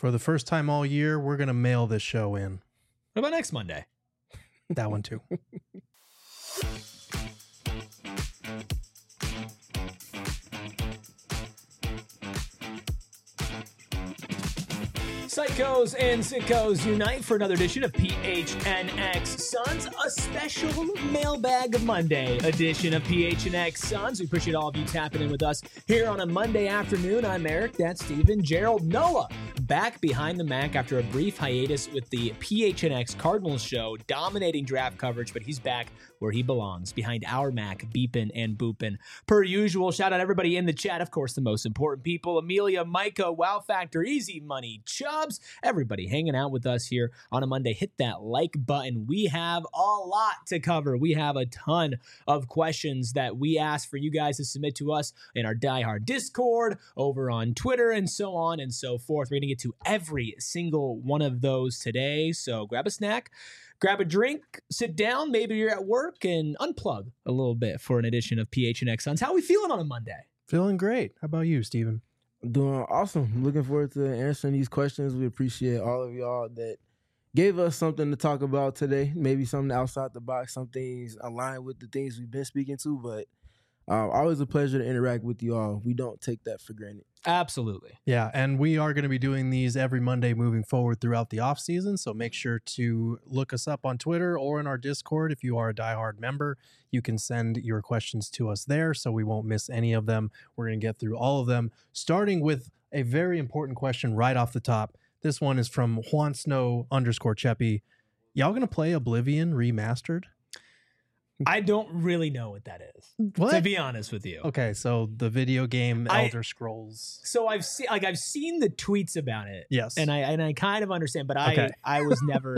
For the first time all year, we're going to mail this show in. What about next Monday? That one too. Psychos and sickos unite for another edition of PHNX Suns, a special Mailbag Monday edition of PHNX Suns. We appreciate all of you tapping in with us here on a Monday afternoon. I'm Eric, that's Steven. Gerald Noah back behind the Mac after a brief hiatus with the PHNX Cardinals show, dominating draft coverage, but he's back where he belongs, behind our Mac, beeping and booping. Per usual, shout out everybody in the chat. Of course, the most important people, Amelia, Micah, Wow Factor, Easy Money, Chubbs, everybody hanging out with us here on a Monday. Hit that like button. We have a lot to cover. We have a ton of questions that we ask for you guys to submit to us in our Die Hard Discord, over on Twitter, and so on and so forth. We're going to get to every single one of those today. So grab a snack, grab a drink, sit down, maybe you're at work, and unplug a little bit for an edition of PHNX Suns. How are we feeling on a Monday? Feeling great. How about you, Steven? Doing awesome. Looking forward to answering these questions. We appreciate all of y'all that gave us something to talk about today. Maybe something outside the box, some things aligned with the things we've been speaking to, but always a pleasure to interact with you all. We don't take that for granted. Absolutely. Yeah, and we are going to be doing these every Monday moving forward throughout the off season. So make sure to look us up on Twitter or in our Discord. If you are a diehard member, you can send your questions to us there so we won't miss any of them. We're going to get through all of them, starting with a very important question right off the top. This one is from Juan Snow _Cheppy. Y'all going to play Oblivion Remastered? I don't really know what that is, What? to be honest with you. Okay, so the video game Elder Scrolls. So I've seen the tweets about it. Yes. And I kind of understand, but Okay. I was never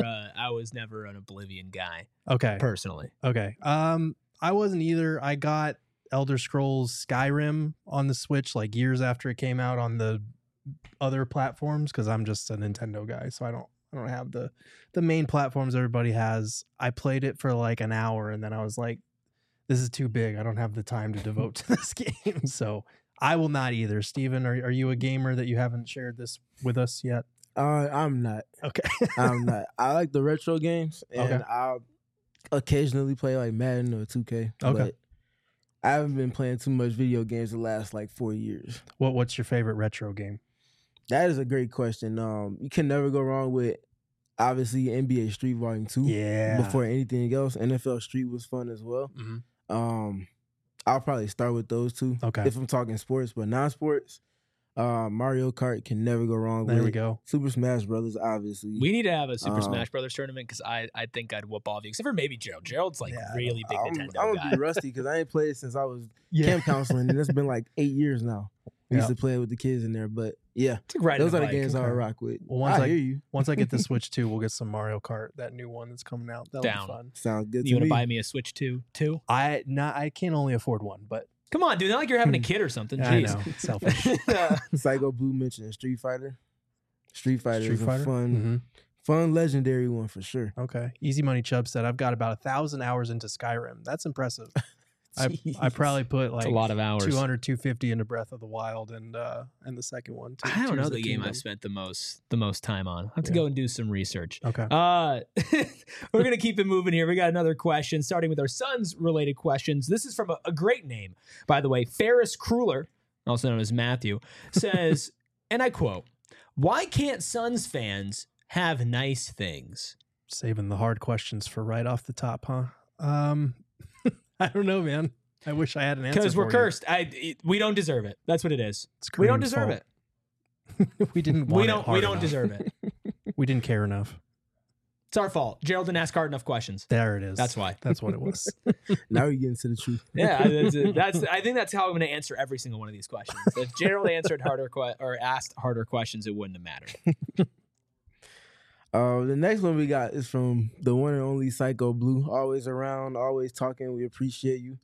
an Oblivion guy Okay. personally. Okay. I wasn't either. I got Elder Scrolls Skyrim on the Switch like years after it came out on the other platforms because I'm just a Nintendo guy, so I don't have the main platforms everybody has. I played it for like an hour and then I was like, this is too big. I don't have the time to devote to this game. So I will not either. Steven, are you a gamer that you haven't shared this with us yet? I'm not. Okay. I'm not. I like the retro games, and Okay. I'll occasionally play like Madden or 2K. Okay. But I haven't been playing too much video games the last like 4 years. What's your favorite retro game? That is a great question. You can never go wrong with obviously NBA Street Volume 2. Yeah. Before anything else, NFL Street was fun as well. Mm-hmm. I'll probably start with those two. Okay. If I'm talking sports, but non-sports, Mario Kart can never go wrong with. There we go. Super Smash Brothers, obviously. We need to have a Super Smash Brothers tournament because I think I'd whoop all of you, except for maybe Gerald. Gerald's like really big Nintendo I'm guy. gonna be rusty because I ain't played since I was camp counseling, and it's been like 8 years now. We used to play with the kids in there, but yeah, those are the games I rock with. Well, I hear you. Once I get the Switch 2, we'll get some Mario Kart, that new one that's coming out. That'll Down. be fun. Sounds good. You want to buy me a Switch 2 too? I can only afford one, but Come on, dude. Not like you're having a kid or something. I Jeez. know, selfish. Psycho Blue mentioned Street Fighter. Street Fighter is a Fighter? fun legendary one for sure. Okay. Easy Money Chubb said, I've got about 1,000 hours into Skyrim. That's impressive. I probably put like It's a lot of hours. 200, 250 into Breath of the Wild and the second one. I don't know Tears the of game Kingdom. I've spent the most time on. I have to go and do some research. Okay. We're going to keep it moving here. We got another question, starting with our Suns related questions. This is from a great name, by the way. Ferris Kruller, also known as Matthew, says, and I quote, "Why can't Suns fans have nice things?" Saving the hard questions for right off the top, huh? I don't know, man. I wish I had an answer. Because we're for you. cursed. We don't deserve it. That's what it is. It's We don't Kareem's deserve fault. it. We didn't want We it don't. hard We don't enough. deserve it. We didn't care enough. It's our fault. Gerald didn't ask hard enough questions. There it is. That's why. That's what it was. Now we get into the truth. Yeah, that's. I think that's how I'm going to answer every single one of these questions. If Gerald answered harder or asked harder questions, it wouldn't have mattered. The next one we got is from the one and only Psycho Blue. Always around, always talking. We appreciate you.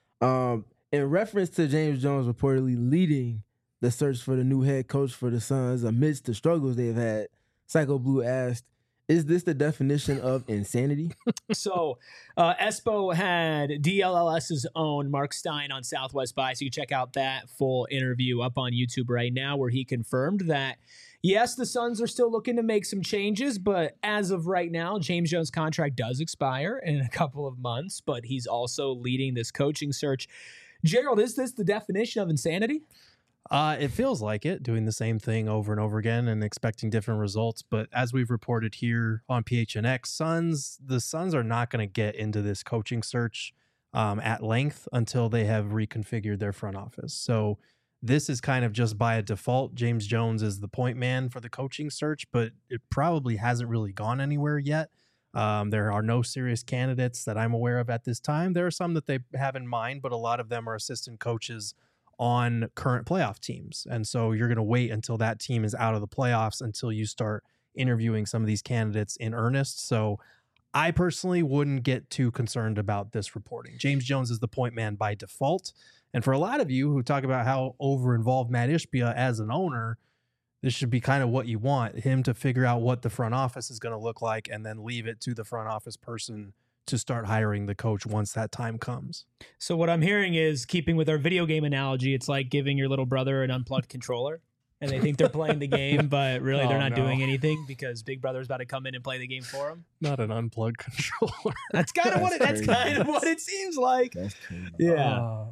In reference to James Jones reportedly leading the search for the new head coach for the Suns amidst the struggles they've had, Psycho Blue asked, "Is this the definition of insanity?" So, Espo had DLLS's own Mark Stein on Southwest By, so you can check out that full interview up on YouTube right now, where he confirmed that Yes, the Suns are still looking to make some changes, but as of right now, James Jones' contract does expire in a couple of months, but he's also leading this coaching search. Gerald, is this the definition of insanity? It feels like it, doing the same thing over and over again and expecting different results. But as we've reported here on PHNX, the Suns are not going to get into this coaching search at length until they have reconfigured their front office. So this is kind of just by a default. James Jones is the point man for the coaching search, but it probably hasn't really gone anywhere yet. There are no serious candidates that I'm aware of at this time. There are some that they have in mind, but a lot of them are assistant coaches on current playoff teams. And so you're going to wait until that team is out of the playoffs until you start interviewing some of these candidates in earnest. So I personally wouldn't get too concerned about this reporting. James Jones is the point man by default. And for a lot of you who talk about how over-involved Matt Ishbia as an owner, this should be kind of what you want, him to figure out what the front office is going to look like and then leave it to the front office person to start hiring the coach once that time comes. So what I'm hearing is, keeping with our video game analogy, it's like giving your little brother an unplugged controller and they think they're playing the game, but really they're not doing anything because Big Brother's about to come in and play the game for them. Not an unplugged controller. That's kind of what it seems like. That's crazy. Yeah.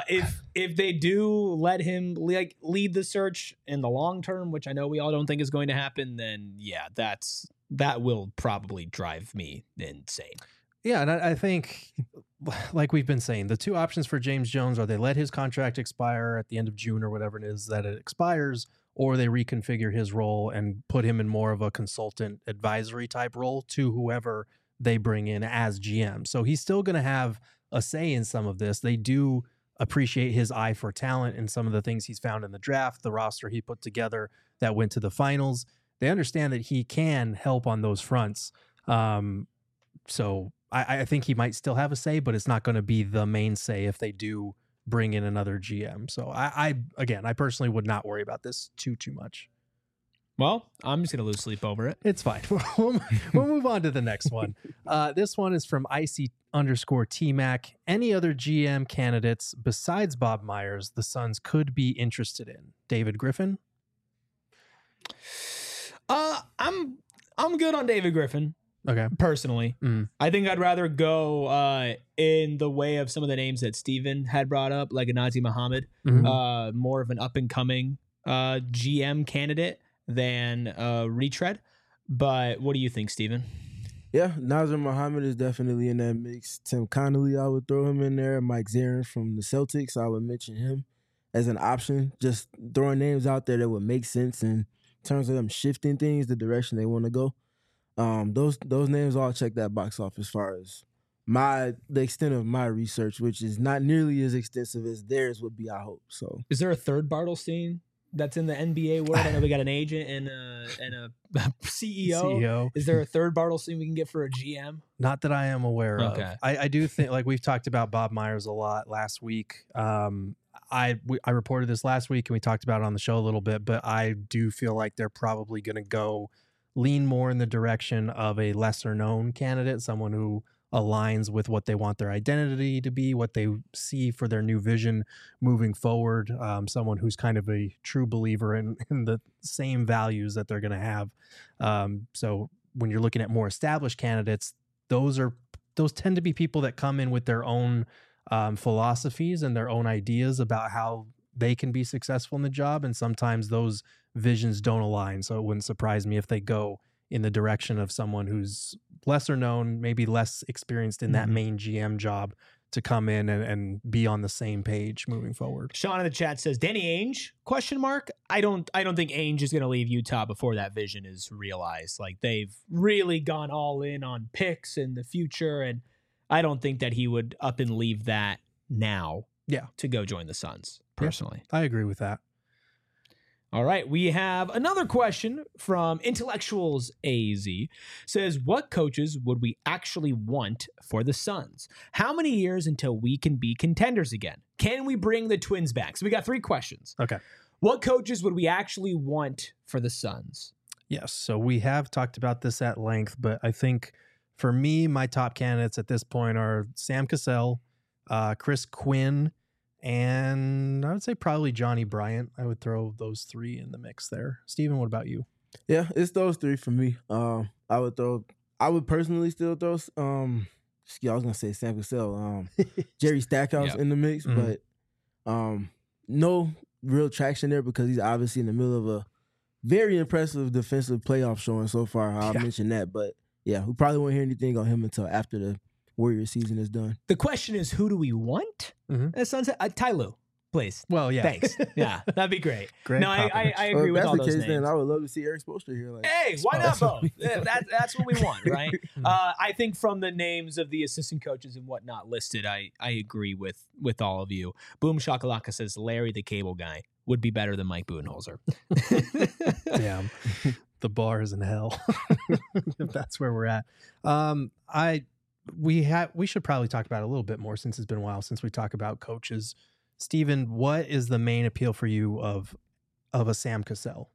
If they do let him lead the search in the long term, which I know we all don't think is going to happen, then yeah, that will probably drive me insane. Yeah, and I think, like we've been saying, the two options for James Jones are they let his contract expire at the end of June or whatever it is that it expires, or they reconfigure his role and put him in more of a consultant advisory type role to whoever they bring in as GM. So he's still going to have a say in some of this. They do appreciate his eye for talent and some of the things he's found in the draft, the roster he put together that went to the finals. They understand that he can help on those fronts. So I think he might still have a say, but it's not going to be the main say if they do bring in another GM. So I personally would not worry about this too much. Well, I'm just going to lose sleep over it. It's fine. We'll move on to the next one. This one is from icy_TMac. Any other GM candidates besides Bob Myers the Suns could be interested in? David Griffin? I'm good on David Griffin. Okay. Personally, I think I'd rather go in the way of some of the names that Steven had brought up, like a Nazir Muhammad, more of an up-and-coming GM candidate than retread. But what do you think, Steven? Yeah, Nazir Muhammad is definitely in that mix. Tim Connolly, I would throw him in there. Mike Zarin from the Celtics, I would mention him as an option. Just throwing names out there that would make sense in terms of them shifting things the direction they want to go. Those names all check that box off as far as the extent of my research, which is not nearly as extensive as theirs would be, I hope. So, is there a third Bartelstein that's in the NBA world? I know we got an agent and a CEO. Is there a third Bartelstein we can get for a GM? Not that I am aware of. I do think, like we've talked about Bob Myers a lot last week. I reported this last week and we talked about it on the show a little bit, but I do feel like they're probably going to lean more in the direction of a lesser known candidate, someone who aligns with what they want their identity to be, what they see for their new vision moving forward, someone who's kind of a true believer in the same values that they're going to have. So when you're looking at more established candidates, those tend to be people that come in with their own philosophies and their own ideas about how they can be successful in the job. And sometimes those visions don't align. So it wouldn't surprise me if they go in the direction of someone who's lesser known, maybe less experienced in that main GM job, to come in and be on the same page moving forward. Sean in the chat says, Danny Ainge? ? I don't think Ainge is going to leave Utah before that vision is realized. Like, they've really gone all in on picks in the future, and I don't think that he would up and leave that now to go join the Suns, personally. Yeah, I agree with that. All right, we have another question from Intellectuals AZ. Says, what coaches would we actually want for the Suns? How many years until we can be contenders again? Can we bring the Twins back? So we got 3 questions. Okay. What coaches would we actually want for the Suns? Yes, so we have talked about this at length, but I think for me, my top candidates at this point are Sam Cassell, Chris Quinn, and I would say probably Johnny Bryant. I would throw those 3 in the mix there. Steven, what about you? Yeah, it's those three for me. I would personally still throw. I was gonna say Sam Cassell, Jerry Stackhouse Yep. in the mix, Mhm. but no real traction there because he's obviously in the middle of a very impressive defensive playoff showing so far. I'll mention that, but yeah, we probably won't hear anything on him until after the Warriors season is done. The question is, who do we want? Mhm. Sunset Ty Lue, please. Well, yeah. Thanks. Yeah, that'd be great. Greg No, I Popovich. agree with if that's all the those case, names. then I would love to see Eric Spoelstra here. Like, Hey, why not both? That's what we want, right? Mhm. I think from the names of the assistant coaches and whatnot listed, I agree with all of you. Boom Shakalaka says Larry the Cable Guy would be better than Mike Budenholzer. Damn. The bar is in hell. If that's where we're at. We should probably talk about it a little bit more since it's been a while since we talk about coaches. Steven, what is the main appeal for you of a Sam Cassell?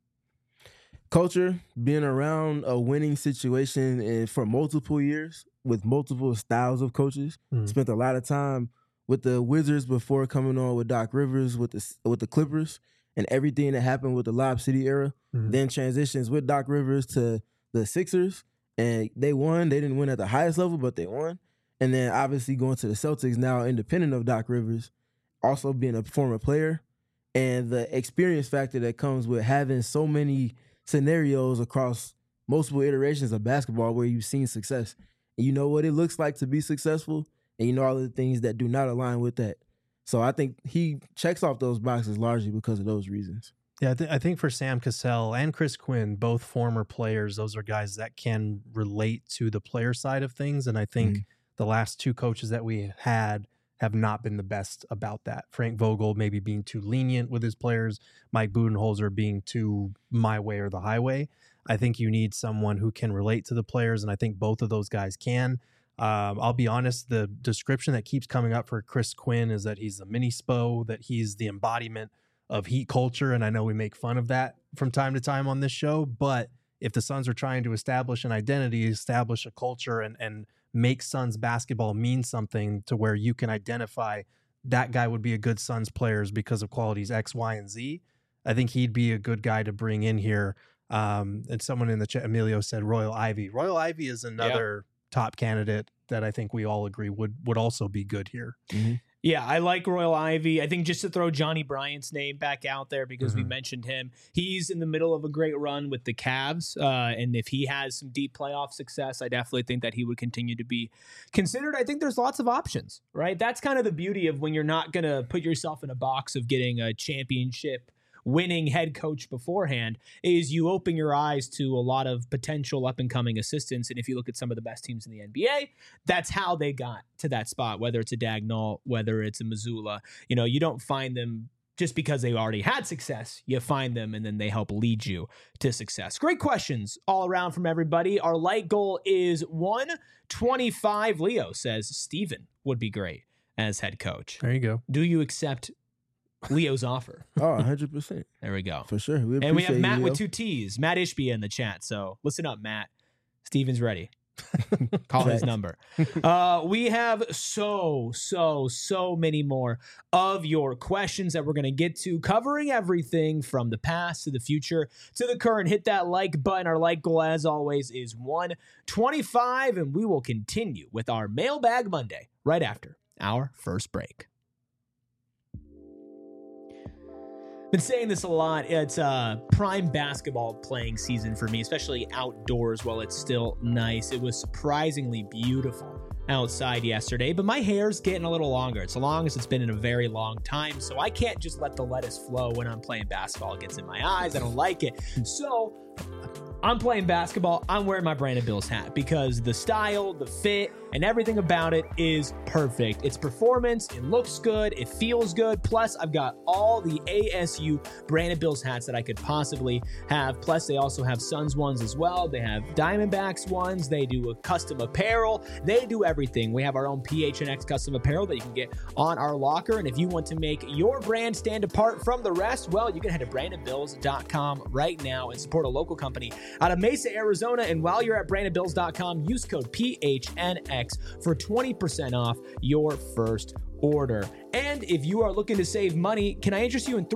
culture, being around a winning situation and for multiple years with multiple styles of coaches. Spent a lot of time with the Wizards before coming on with Doc Rivers with the Clippers and everything that happened with the Lob City era. Then transitions with Doc Rivers to the Sixers, and they won. They didn't win at the highest level, but they won. And then obviously going to the Celtics now, independent of Doc Rivers, also being a former player, and the experience factor that comes with having so many scenarios across multiple iterations of basketball where you've seen success. And you know what it looks like to be successful, and you know all of the things that do not align with that. So I think he checks off those boxes largely because of those reasons. Yeah, I think for Sam Cassell and Chris Quinn, both former players, those are guys that can relate to the player side of things. And I think the last two coaches that we had have not been the best about that. Frank Vogel maybe being too lenient with his players, Mike Budenholzer being too my way or the highway. I think you need someone who can relate to the players, and I think both of those guys can. I'll be honest, the description that keeps coming up for Chris Quinn is that he's a mini Spo, that he's the embodiment of Heat culture, and I know we make fun of that from time to time on this show, but if the Suns are trying to establish an identity, establish a culture, and make Suns basketball mean something to where you can identify that guy would be a good Suns players because of qualities X, Y, and Z, I think he'd be a good guy to bring in here. And someone in the chat, Emilio, said Royal Ivy. Royal Ivy is another top candidate that I think we all agree would also be good here. Yeah, I like Royal Ivy. I think just to throw Johnny Bryant's name back out there because we mentioned him, he's in the middle of a great run with the Cavs. And if he has some deep playoff success, I definitely think that he would continue to be considered. I think there's lots of options, right? That's kind of the beauty of when you're not going to put yourself in a box of getting a championship winning head coach beforehand, is you open your eyes to a lot of potential up-and-coming assistants. And if you look at some of the best teams in the NBA, that's how they got to that spot, whether it's a Dagnall, whether it's a Missoula. You know, you don't find them just because they already had success. You find them, and then they help lead you to success. Great questions all around from everybody. Our light goal is 125. Leo says Steven would be great as head coach. There you go. Do you accept Leo's offer? Oh, 100%. There we go. For sure. And we have Matt you, with 2 T's. Matt Ishbia in the chat. So listen up, Matt. Steven's ready. Call his number. We have so many more of your questions that we're going to get to, covering everything from the past to the future to the current. Hit that like button. Our like goal, as always, is 125, and we will continue with our Mailbag Monday right after our first break. Been saying this a lot. It's prime basketball playing season for me, especially outdoors while it's still nice. It was surprisingly beautiful outside yesterday, but my hair's getting a little longer. It's the longest it's been in a very long time, so I can't just let the lettuce flow when I'm playing basketball. It gets in my eyes. I don't like it. So I'm playing basketball. I'm wearing my Brandon Bills hat because the style, the fit, and everything about it is perfect. It's performance. It looks good. It feels good. Plus, I've got all the ASU Brandon Bills hats that I could possibly have. Plus, they also have Suns ones as well. They have Diamondbacks ones. They do a custom apparel. They do everything. We have our own PHNX custom apparel that you can get on our locker. And if you want to make your brand stand apart from the rest, well, you can head to BrandonBills.com right now and support a local company out of Mesa, Arizona. And while you're at BrandonBills.com, use code PHNX for 20% off your first order. And if you are looking to save money, can I interest you in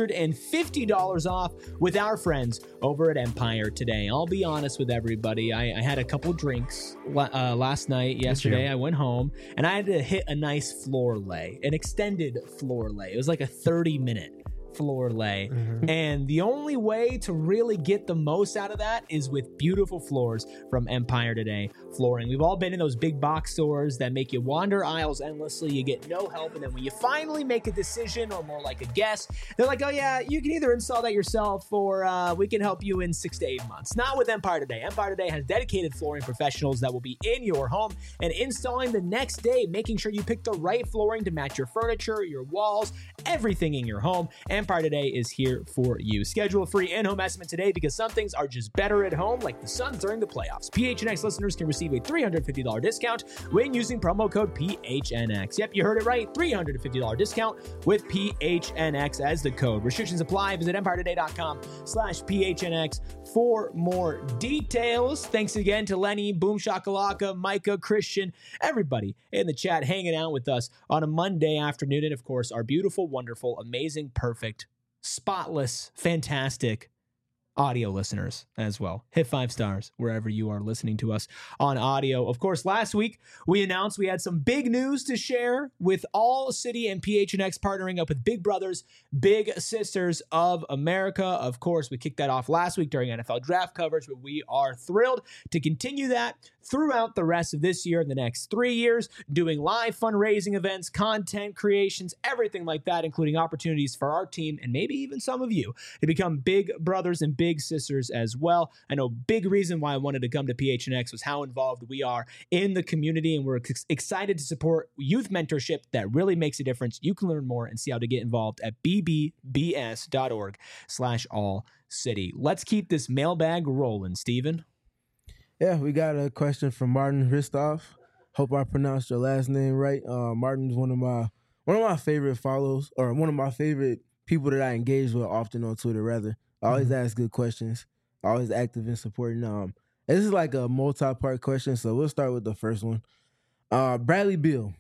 $350 off with our friends over at Empire today? I'll be honest with everybody. I had a couple drinks last night. Yesterday, I went home and I had to hit a nice floor lay, an extended floor lay. It was like a 30-minute floor lay. And the only way to really get the most out of that is with beautiful floors from Empire Today Flooring. We've all been in those big box stores that make you wander aisles endlessly. You get no help. And then when you finally make a decision, or more like a guess, they're like, oh yeah, you can either install that yourself or we can help you in 6 to 8 months. Not with Empire Today. Empire Today has dedicated flooring professionals that will be in your home and installing the next day, making sure you pick the right flooring to match your furniture, your walls, everything in your home. Empire Today is here for you. Schedule a free in-home estimate today because some things are just better at home, like the Suns during the playoffs. PHNX listeners can receive a $350 discount when using promo code PHNX. Yep, you heard it right. $350 discount with PHNX as the code. Restrictions apply. Visit EmpireToday.com/PHNX for more details. Thanks again to Lenny, Boom Shakalaka, Micah, Christian, everybody in the chat hanging out with us on a Monday afternoon. And of course, our beautiful, wonderful, amazing, perfect, spotless, fantastic audio listeners as well. Hit 5 stars wherever you are listening to us on audio. Of course, last week we announced we had some big news to share with All City and PHNX partnering up with Big Brothers, Big Sisters of America. Of course, we kicked that off last week during NFL draft coverage, but we are thrilled to continue that throughout the rest of this year and the next 3 years, doing live fundraising events, content creations, everything like that, including opportunities for our team and maybe even some of you to become big brothers and big sisters as well. I know big reason why I wanted to come to PHNX was how involved we are in the community, and we're excited to support youth mentorship that really makes a difference. You can learn more and see how to get involved at bbbs.org/allcity. Let's keep this mailbag rolling, Steven. Yeah, we got a question from Martin Hristov. Hope I pronounced your last name right. Martin's one of my favorite follows, or one of my favorite people that I engage with often on Twitter, rather. I always ask good questions. Always active in supporting. This is like a multi-part question, so we'll start with the first one. Bradley Beal.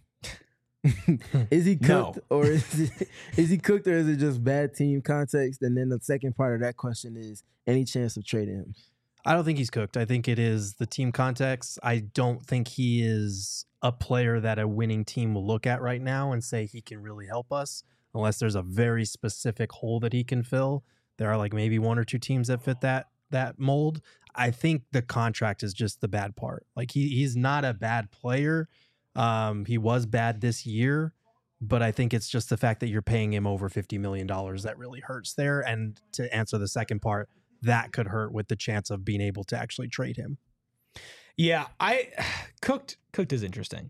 Is he cooked, or is he cooked, or is it just bad team context? And then the second part of that question is any chance of trading him? I don't think he's cooked. I think it is the team context. I don't think he is a player that a winning team will look at right now and say he can really help us, unless there's a very specific hole that he can fill. There are like maybe 1 or 2 teams that fit that mold. I think the contract is just the bad part. Like he's not a bad player. He was bad this year, but I think it's just the fact that you're paying him over $50 million that really hurts there. And to answer the second part, that could hurt with the chance of being able to actually trade him. Yeah, Cooked is interesting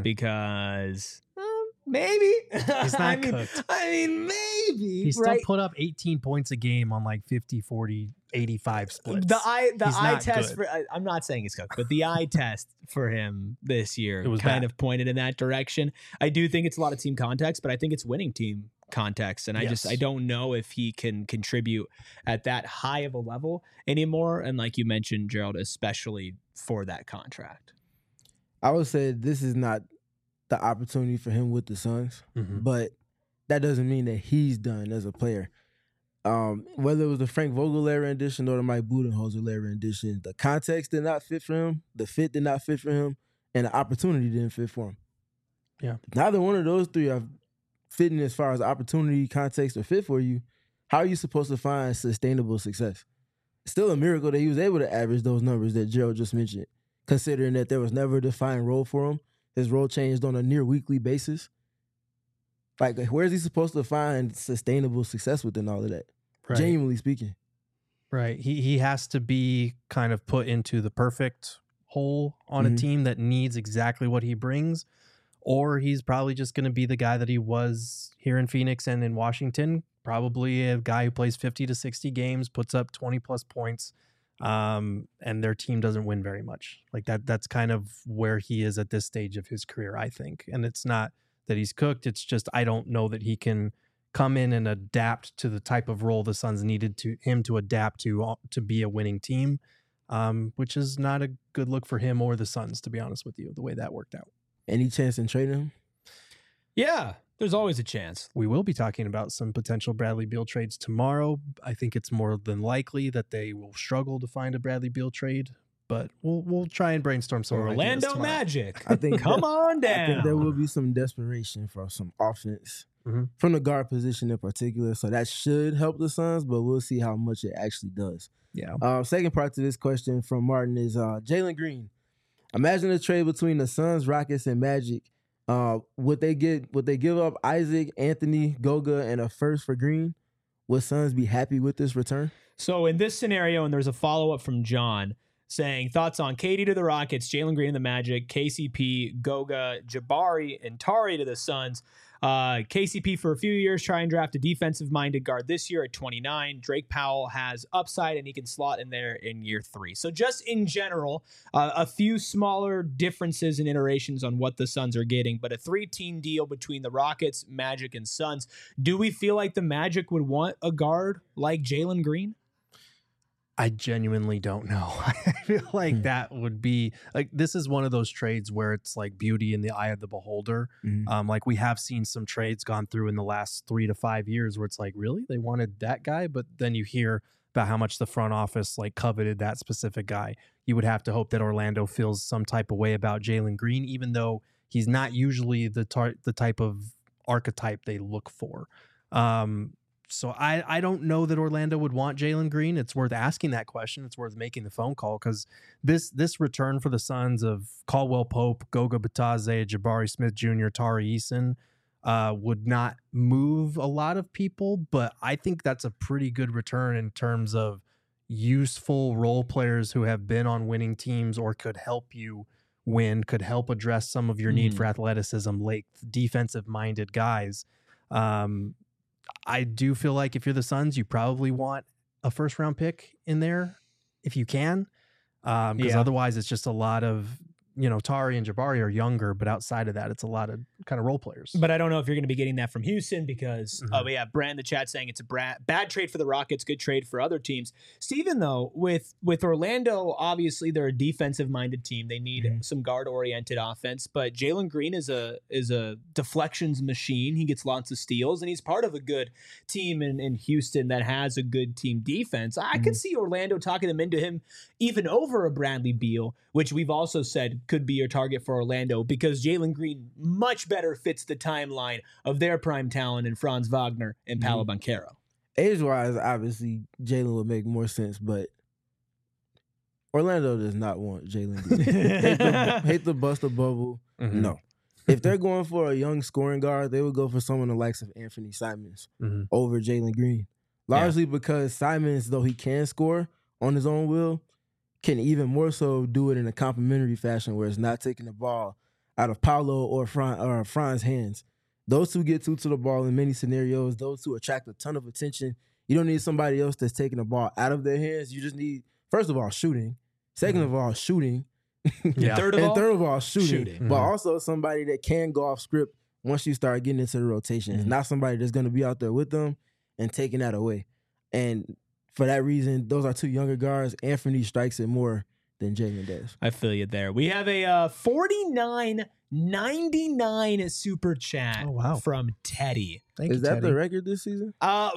because maybe he's not cooked. I mean, maybe he still put up 18 points a game on like 50, 40, 85 splits. The eye test for I'm not saying he's cooked, but the eye test for him this year kind of pointed in that direction. I do think it's a lot of team context, but I think it's winning team context, and I don't know if he can contribute at that high of a level anymore. And like you mentioned, Gerald, especially for that contract, I would say this is not the opportunity for him with the Suns, but that doesn't mean that he's done as a player. Whether it was the Frank Vogel era edition or the Mike Budenholzer era edition, the context did not fit for him, the fit did not fit for him, and the opportunity didn't fit for him. Yeah, neither one of those three are fitting as far as opportunity, context, or fit for you. How are you supposed to find sustainable success? It's still a miracle that he was able to average those numbers that Gerald just mentioned, considering that there was never a defined role for him. His role changed on a near weekly basis. Like, where is he supposed to find sustainable success within all of that? Right. Genuinely speaking. Right. He has to be kind of put into the perfect hole on a team that needs exactly what he brings, or he's probably just going to be the guy that he was here in Phoenix and in Washington, probably a guy who plays 50 to 60 games, puts up 20 plus points, and their team doesn't win very much. Like that's kind of where he is at this stage of his career, I think. And it's not that he's cooked. It's just, I don't know that he can come in and adapt to the type of role the Suns needed him to adapt to be a winning team, which is not a good look for him or the Suns, to be honest with you, the way that worked out. Any chance in trading him? Yeah, there's always a chance. We will be talking about some potential Bradley Beal trades tomorrow. I think it's more than likely that they will struggle to find a Bradley Beal trade, but we'll try and brainstorm some Orlando ideas Magic. I think Come on down. I think there will be some desperation for some offense from the guard position in particular. So that should help the Suns, but we'll see how much it actually does. Yeah. Second part to this question from Martin is Jalen Green. Imagine a trade between the Suns, Rockets, and Magic. Would they give up Isaac, Anthony, Goga, and a first for Green? Would Suns be happy with this return? So in this scenario, and there's a follow-up from John saying, thoughts on KD to the Rockets, Jalen Green to the Magic, KCP, Goga, Jabari, and Tari to the Suns. KCP for a few years, try and draft a defensive-minded guard this year at 29. Drake Powell has upside, and he can slot in there in year 3. So just in general, a few smaller differences and iterations on what the Suns are getting, but a 3-team deal between the Rockets, Magic, and Suns. Do we feel like the Magic would want a guard like Jalen Green? I genuinely don't know. I feel like that would be like, this is one of those trades where it's like beauty in the eye of the beholder. Like we have seen some trades gone through in the last 3 to 5 years where it's like, really, they wanted that guy, but then you hear about how much the front office like coveted that specific guy. You would have to hope that Orlando feels some type of way about Jalen Green, even though he's not usually the type of archetype they look for. So I don't know that Orlando would want Jalen Green. It's worth asking that question. It's worth making the phone call because this return for the Suns of Caldwell Pope, Goga Bitadze, Jabari Smith Jr., Tari Eason would not move a lot of people, but I think that's a pretty good return in terms of useful role players who have been on winning teams or could help you win, could help address some of your need for athleticism, length, defensive-minded guys. I do feel like if you're the Suns, you probably want a first-round pick in there if you can, because otherwise it's just a lot of, Tari and Jabari are younger, but outside of that, it's a lot of kind of role players. But I don't know if you're going to be getting that from Houston because, Brad in the chat saying it's a bad trade for the Rockets, good trade for other teams. Steven, though, with Orlando, obviously they're a defensive-minded team. They need some guard-oriented offense, but Jalen Green is a deflections machine. He gets lots of steals, and he's part of a good team in Houston that has a good team defense. I could see Orlando talking them into him even over a Bradley Beal, which we've also said could be your target for Orlando because Jalen Green much better fits the timeline of their prime talent in Franz Wagner and Paolo Banchero. Age-wise, obviously, Jalen would make more sense, but Orlando does not want Jalen Green. hate to bust a bubble. No. If they're going for a young scoring guard, they would go for someone the likes of Anthony Simons over Jalen Green. Largely because Simons, though he can score on his own will, can even more so do it in a complementary fashion where it's not taking the ball out of Paolo or Franz's hands. Those two get to the ball in many scenarios. Those two attract a ton of attention. You don't need somebody else that's taking the ball out of their hands. You just need, first of all, shooting. Second of all, shooting. Third of all, shooting. But also somebody that can go off script once you start getting into the rotation. It's not somebody that's going to be out there with them and taking that away. And for that reason, those are two younger guards. Anthony strikes it more than Jalen does. I feel you there. We have a $49.99 super chat from Teddy. Thank you, Is that Teddy. the record this season?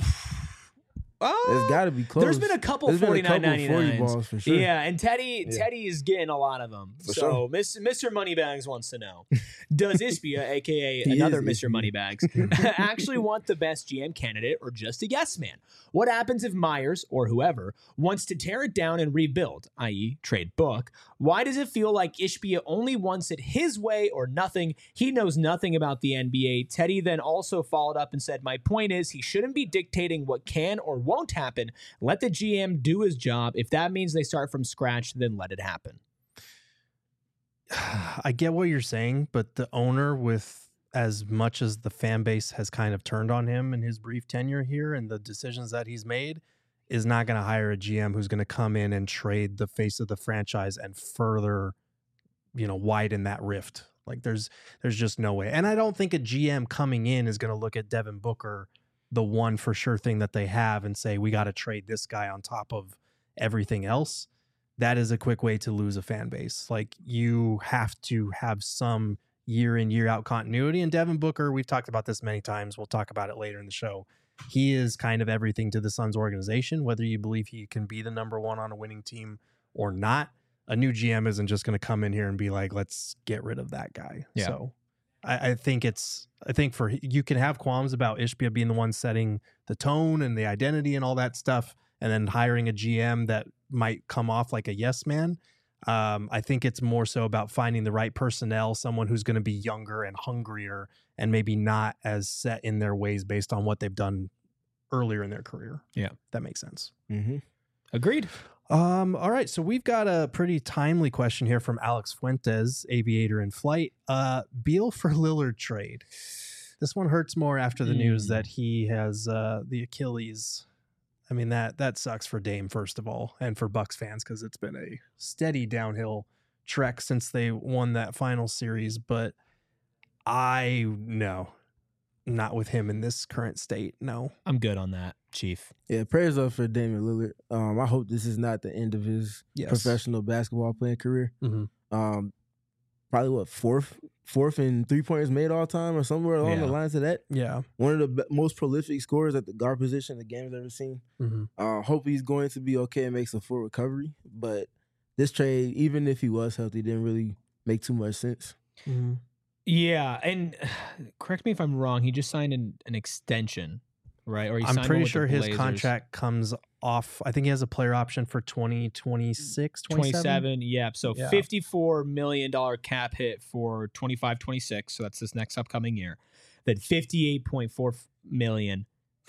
It's got to be close. There's been a couple $49.99 balls for sure. Yeah, and Teddy is getting a lot of them. So Mr. Moneybags wants to know, does Ispia, a.k.a. another Mr. Moneybags, actually want the best GM candidate or just a yes man? What happens if Myers, or whoever, wants to tear it down and rebuild, i.e. trade Book? Why does it feel like Ishbia only wants it his way or nothing? He knows nothing about the NBA. Teddy then also followed up and said, my point is he shouldn't be dictating what can or won't happen. Let the GM do his job. If that means they start from scratch, then let it happen. I get what you're saying, but the owner, with as much as the fan base has kind of turned on him in his brief tenure here and the decisions that he's made, is not going to hire a GM who's going to come in and trade the face of the franchise and further, widen that rift. Like there's just no way. And I don't think a GM coming in is going to look at Devin Booker, the one for sure thing that they have, and say, we got to trade this guy on top of everything else. That is a quick way to lose a fan base. Like you have to have some year in, year out continuity. And Devin Booker, we've talked about this many times. We'll talk about it later in the show. He is kind of everything to the Suns organization, whether you believe he can be the number one on a winning team or not. A new GM isn't just going to come in here and be like, let's get rid of that guy. Yeah. So I think you can have qualms about Ishbia being the one setting the tone and the identity and all that stuff, and then hiring a GM that might come off like a yes man. I think it's more so about finding the right personnel, someone who's going to be younger and hungrier and maybe not as set in their ways based on what they've done earlier in their career. Yeah. That makes sense. Mm-hmm. Agreed. All right. So we've got a pretty timely question here from Alex Fuentes, aviator in flight. Beal for Lillard trade. This one hurts more after the news that he has the Achilles. I mean, that sucks for Dame, first of all, and for Bucks fans, because it's been a steady downhill trek since they won that final series. But no, not with him in this current state. No. I'm good on that, Chief. Yeah, prayers up for Damian Lillard. I hope this is not the end of his professional basketball playing career. Mm-hmm. Probably fourth in 3-pointers made all time or somewhere along the lines of that. Yeah. One of the most prolific scorers at the guard position the game's ever seen. Mm-hmm. Hope he's going to be okay and makes a full recovery. But this trade, even if he was healthy, didn't really make too much sense. Mm-hmm. Yeah, and correct me if I'm wrong, he just signed an extension, right? Or he I'm signed pretty one with sure the his Blazers. contract comes off. I think he has a player option for 2026, 27, yeah. So Yeah. $54 million cap hit for 25-26. So that's this next upcoming year. Then $58.4 million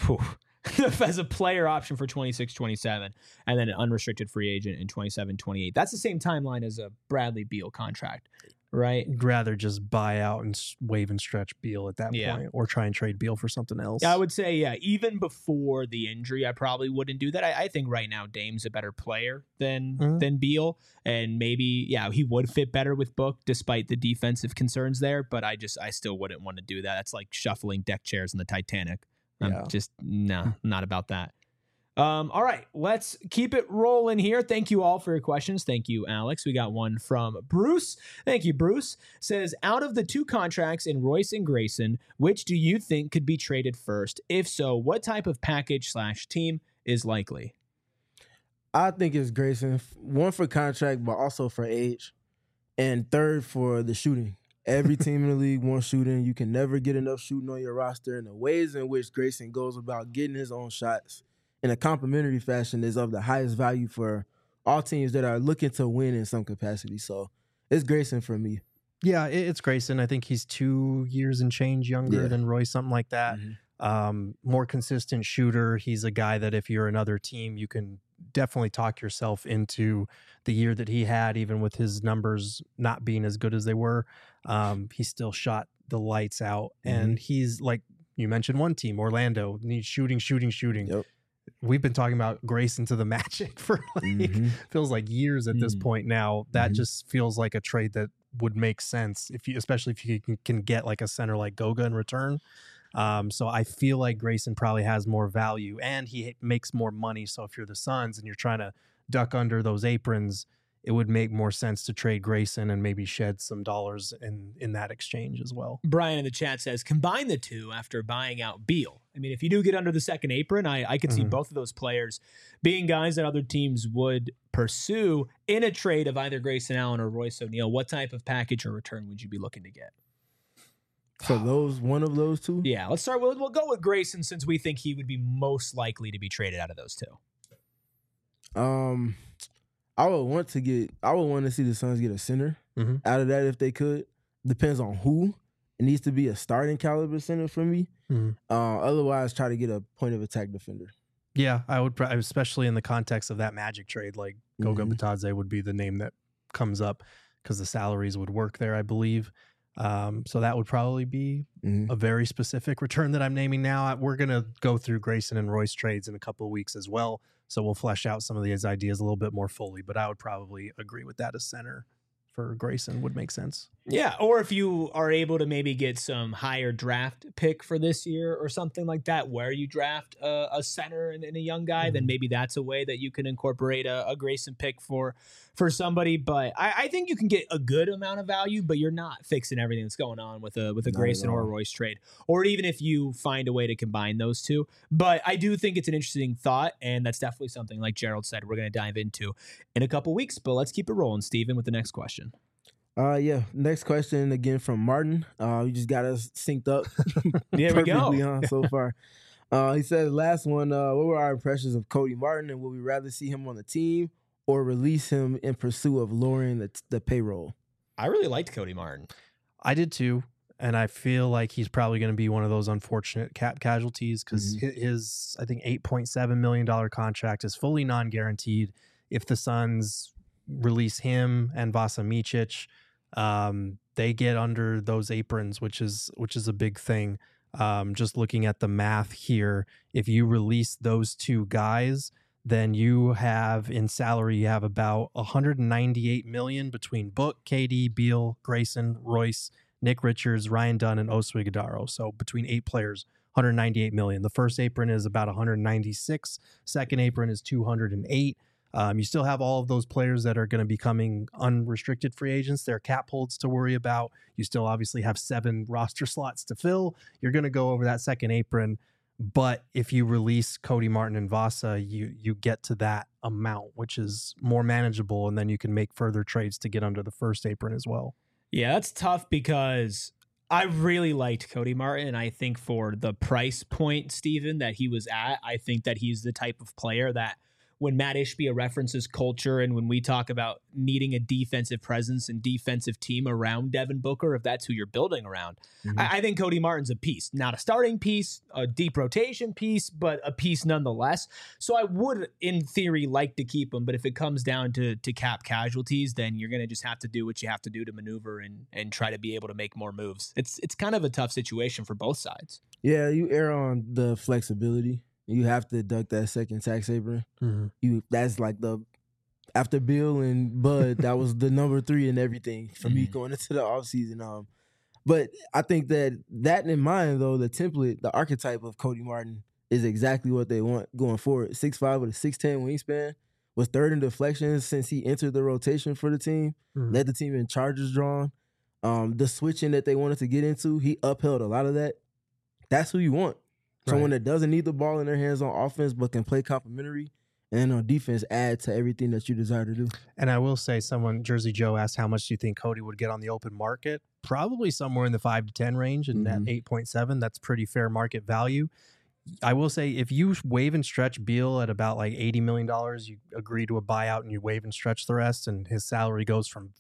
as a player option for 26-27, and then an unrestricted free agent in 27-28. That's the same timeline as a Bradley Beal contract, right? I'd rather just buy out and wave and stretch Beal at that point, or try and trade Beal for something else. Yeah, I would say, even before the injury, I probably wouldn't do that. I think right now Dame's a better player than Beal, and maybe, he would fit better with Book despite the defensive concerns there, but I still wouldn't want to do that. That's like shuffling deck chairs in the Titanic. I'm just, not about that. All right, let's keep it rolling here. Thank you all for your questions. Thank you, Alex. We got one from Bruce. Thank you, Bruce. Says, out of the two contracts in Royce and Grayson, which do you think could be traded first? If so, what type of package/team is likely? I think it's Grayson. One for contract, but also for age. And third for the shooting. Every team in the league wants shooting. You can never get enough shooting on your roster. And the ways in which Grayson goes about getting his own shots in a complementary fashion is of the highest value for all teams that are looking to win in some capacity. So it's Grayson for me. Yeah, it's Grayson. I think he's 2 years and change younger than Royce, something like that. Mm-hmm. More consistent shooter. He's a guy that if you're another team, you can definitely talk yourself into the year that he had, even with his numbers not being as good as they were. He still shot the lights out. And he's like, you mentioned one team, Orlando, needs shooting. Yep. We've been talking about Grayson to the Magic for feels like years at this point now. That just feels like a trade that would make sense especially if you can get like a center like Goga in return. So I feel like Grayson probably has more value and he makes more money. So if you're the Suns and you're trying to duck under those aprons, it would make more sense to trade Grayson and maybe shed some dollars in that exchange as well. Brian in the chat says, combine the two after buying out Beal. I mean, if you do get under the second apron, I could see both of those players being guys that other teams would pursue in a trade of either Grayson Allen or Royce O'Neal. What type of package or return would you be looking to get? For one of those two? Yeah, let's start with, we'll go with Grayson since we think he would be most likely to be traded out of those two. I would want to see the Suns get a center out of that if they could. Depends on who. It needs to be a starting caliber center for me. Otherwise, try to get a point of attack defender. Yeah, I would, especially in the context of that Magic trade, like Goga Bitadze would be the name that comes up because the salaries would work there, I believe. So that would probably be a very specific return that I'm naming now. We're going to go through Grayson and Royce trades in a couple of weeks as well. So we'll flesh out some of these ideas a little bit more fully, but I would probably agree with that as center for Grayson would make sense. Yeah, or if you are able to maybe get some higher draft pick for this year or something like that, where you draft a center and a young guy, then maybe that's a way that you can incorporate a Grayson pick for for somebody, but I think you can get a good amount of value, but you're not fixing everything that's going on with a Grayson or a Royce trade, or even if you find a way to combine those two. But I do think it's an interesting thought, and that's definitely something, like Gerald said, we're going to dive into in a couple weeks. But let's keep it rolling, Steven, with the next question. Next question again from Martin. We just got us synced up. There we go. On so far. He said, last one, what were our impressions of Cody Martin, and would we rather see him on the team or release him in pursuit of lowering the payroll? I really liked Cody Martin. I did too. And I feel like he's probably going to be one of those unfortunate cap casualties because his, I think, $8.7 million contract is fully non-guaranteed. If the Suns release him and Vasa Micic, they get under those aprons, which is a big thing. Just looking at the math here, if you release those two guys, then you have in salary, you have about $198 million between Book, KD, Beal, Grayson, Royce, Nick Richards, Ryan Dunn, and Oso Ighodaro. So between 8 players, $198 million. The first apron is about $196. Second apron is $208. You still have all of those players that are going to be becoming unrestricted free agents. There are cap holds to worry about. You still obviously have 7 roster slots to fill. You're going to go over that second apron. But if you release Cody Martin and Vasa, you get to that amount, which is more manageable, and then you can make further trades to get under the first apron as well. Yeah, that's tough because I really liked Cody Martin, and I think for the price point, Steven, that he was at, I think that he's the type of player that when Matt Ishbia references culture and when we talk about needing a defensive presence and defensive team around Devin Booker, if that's who you're building around, I think Cody Martin's a piece. Not a starting piece, a deep rotation piece, but a piece nonetheless. So I would, in theory, like to keep him, but if it comes down to cap casualties, then you're going to just have to do what you have to do to maneuver and try to be able to make more moves. It's kind of a tough situation for both sides. Yeah, you err on the flexibility. You have to deduct that second tax apron. That's like after Bill and Bud, that was the number 3 in everything for me going into the offseason. But I think that in mind, though, the template, the archetype of Cody Martin is exactly what they want going forward. 6'5" with a 6'10" wingspan, was 3rd in deflections since he entered the rotation for the team, led the team in charges drawn. The switching that they wanted to get into, he upheld a lot of that. That's who you want. Someone that doesn't need the ball in their hands on offense but can play complementary and on defense add to everything that you desire to do. And I will say, Jersey Joe asked how much do you think Cody would get on the open market? Probably somewhere in the 5 to 10 range, and at 8.7, that's pretty fair market value. I will say, if you waive and stretch Beal at about like $80 million, you agree to a buyout and you waive and stretch the rest, and his salary goes from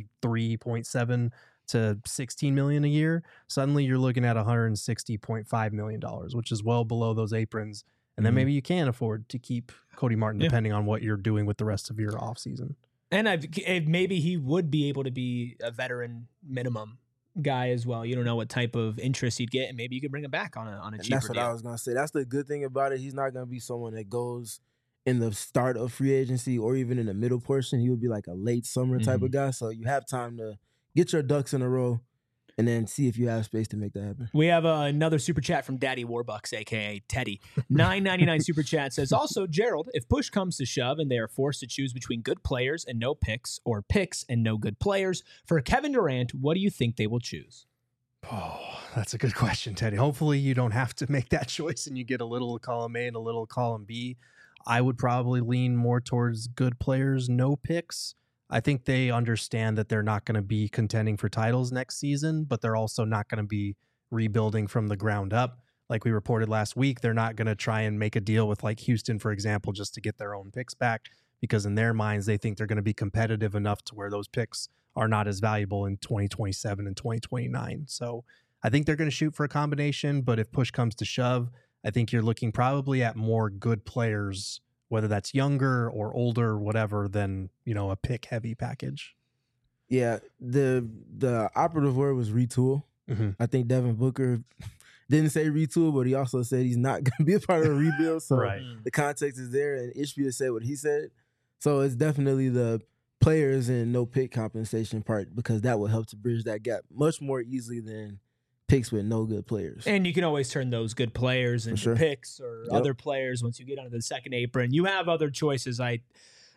53.7 to $16 million a year, suddenly you're looking at $160.5 million, which is well below those aprons. And then maybe you can afford to keep Cody Martin, depending on what you're doing with the rest of your offseason. And maybe he would be able to be a veteran minimum guy as well. You don't know what type of interest he'd get, and maybe you could bring him back on a cheaper That's what deal. I was going to say. That's the good thing about it. He's not going to be someone that goes in the start of free agency or even in the middle portion. He would be like a late summer type of guy. So you have time to get your ducks in a row and then see if you have space to make that happen. We have another super chat from Daddy Warbucks, a.k.a. Teddy. $9.99 super chat says, also, Gerald, if push comes to shove and they are forced to choose between good players and no picks or picks and no good players, for Kevin Durant, what do you think they will choose? Oh, that's a good question, Teddy. Hopefully you don't have to make that choice and you get a little column A and a little column B. I would probably lean more towards good players, no picks. I think they understand that they're not going to be contending for titles next season, but they're also not going to be rebuilding from the ground up. Like we reported last week, they're not going to try and make a deal with like Houston, for example, just to get their own picks back, because in their minds, they think they're going to be competitive enough to where those picks are not as valuable in 2027 and 2029. So I think they're going to shoot for a combination, but if push comes to shove, I think you're looking probably at more good players, whether that's younger or older, whatever, than, a pick heavy package. Yeah, the operative word was retool. I think Devin Booker didn't say retool, but he also said he's not going to be a part of a rebuild. So the context is there, and Ishbia said what he said. So it's definitely the players and no pick compensation part, because that will help to bridge that gap much more easily than picks with no good players. And you can always turn those good players into picks or other players once you get onto the second apron. You have other choices.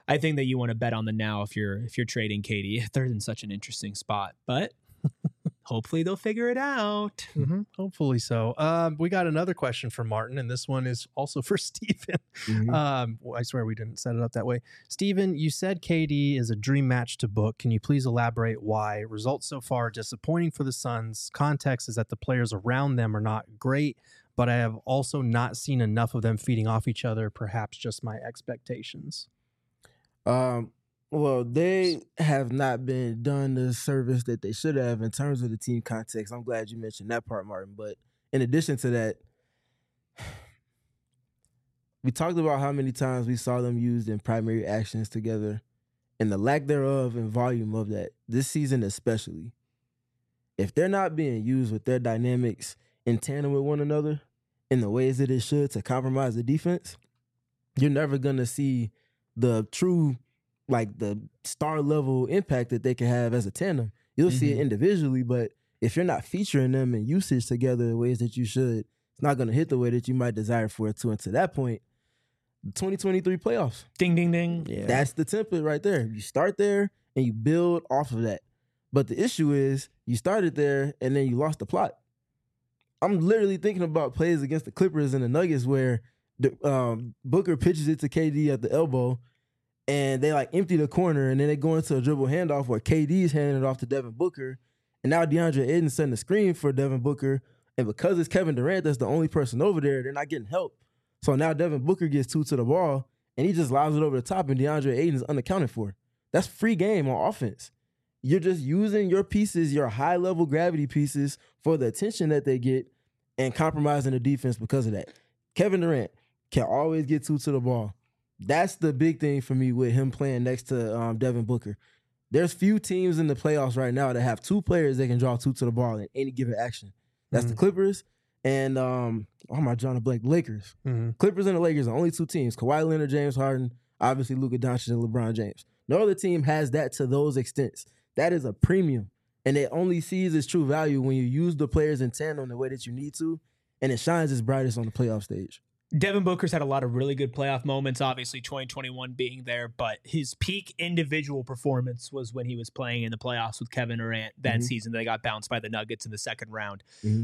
I think that you want to bet on the now if you're trading KD. They're in such an interesting spot, but hopefully they'll figure it out. Mm-hmm. Hopefully so. We got another question from Martin, and this one is also for Steven. I swear we didn't set it up that way. Steven, you said KD is a dream match to book. Can you please elaborate why? Results so far disappointing for the Suns. Context is that the players around them are not great, but I have also not seen enough of them feeding off each other, perhaps just my expectations. Well, they have not been done the service that they should have in terms of the team context. I'm glad you mentioned that part, Martin. But in addition to that, we talked about how many times we saw them used in primary actions together and the lack thereof and volume of that this season especially. If they're not being used with their dynamics in tandem with one another in the ways that it should to compromise the defense, you're never going to see the true, like the star level impact that they can have as a tandem. You'll see it individually, but if you're not featuring them in usage together in ways that you should, it's not going to hit the way that you might desire for it to. And to that point, the 2023 playoffs. Ding, ding, ding. Yeah. That's the template right there. You start there and you build off of that. But the issue is you started there and then you lost the plot. I'm literally thinking about plays against the Clippers and the Nuggets where Booker pitches it to KD at the elbow and they like empty the corner and then they go into a dribble handoff where KD's handing it off to Devin Booker. And now DeAndre Ayton's setting the screen for Devin Booker. And because it's Kevin Durant that's the only person over there, they're not getting help. So now Devin Booker gets 2 to the ball and he just lobs it over the top and DeAndre Ayton is unaccounted for. That's free game on offense. You're just using your pieces, your high-level gravity pieces for the attention that they get and compromising the defense because of that. Kevin Durant can always get 2 to the ball. That's the big thing for me with him playing next to Devin Booker. There's few teams in the playoffs right now that have 2 players that can draw 2 to the ball in any given action. That's the Clippers and, Lakers. Clippers and the Lakers are only 2 teams. Kawhi Leonard, James Harden, obviously Luka Doncic and LeBron James. No other team has that to those extents. That is a premium. And it only sees its true value when you use the players in tandem the way that you need to, and it shines its brightest on the playoff stage. Devin Booker's had a lot of really good playoff moments, obviously 2021 being there, but his peak individual performance was when he was playing in the playoffs with Kevin Durant that season. They got bounced by the Nuggets in the second round.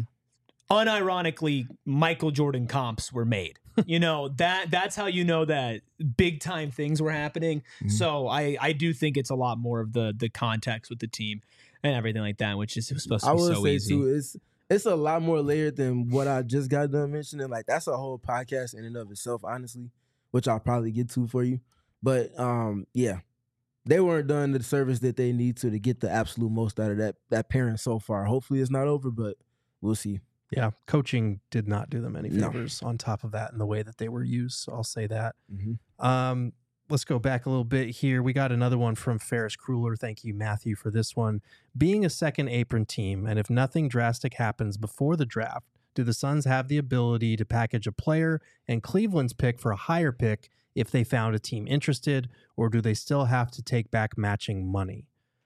Unironically, Michael Jordan comps were made. You know, that's how you know that big time things were happening. So I do think it's a lot more of the context with the team and everything like that, which is supposed to be so easy. Too, it's a lot more layered than what I just got done mentioning. Like that's a whole podcast in and of itself, honestly, which I'll probably get to for you. But yeah, they weren't done the service that they need to get the absolute most out of that pairing so far. Hopefully it's not over, but we'll see. Yeah, coaching did not do them any favors on top of that in the way that they were used. So I'll say that. Let's go back a little bit here. We got another one from Ferris Kruller. Thank you, Matthew, for this one. Being a second apron team, and if nothing drastic happens before the draft, do the Suns have the ability to package a player and Cleveland's pick for a higher pick if they found a team interested, or do they still have to take back matching money?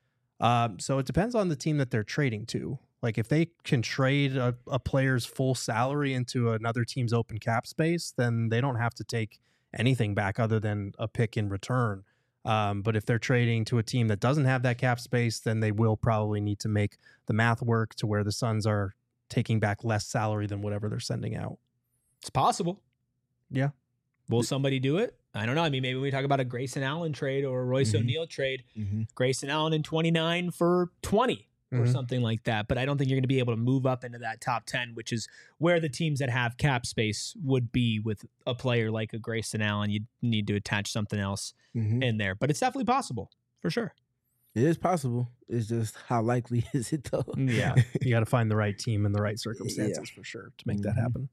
So it depends on the team that they're trading to. Like if they can trade a player's full salary into another team's open cap space, then they don't have to take anything back other than a pick in return. But if they're trading to a team that doesn't have that cap space, then they will probably need to make the math work to where the Suns are taking back less salary than whatever they're sending out. It's possible. Yeah. Will somebody do it? I don't know. I mean, maybe we talk about a Grayson Allen trade or a Royce O'Neal trade. Grayson Allen in 29 for 20. Or something like that. But I don't think you're going to be able to move up into that top 10, which is where the teams that have cap space would be with a player like a Grayson Allen. You need to attach something else in there. But it's definitely possible, for sure. It is possible. It's just how likely is it, though? Yeah. You got to find the right team and the right circumstances for sure to make that happen.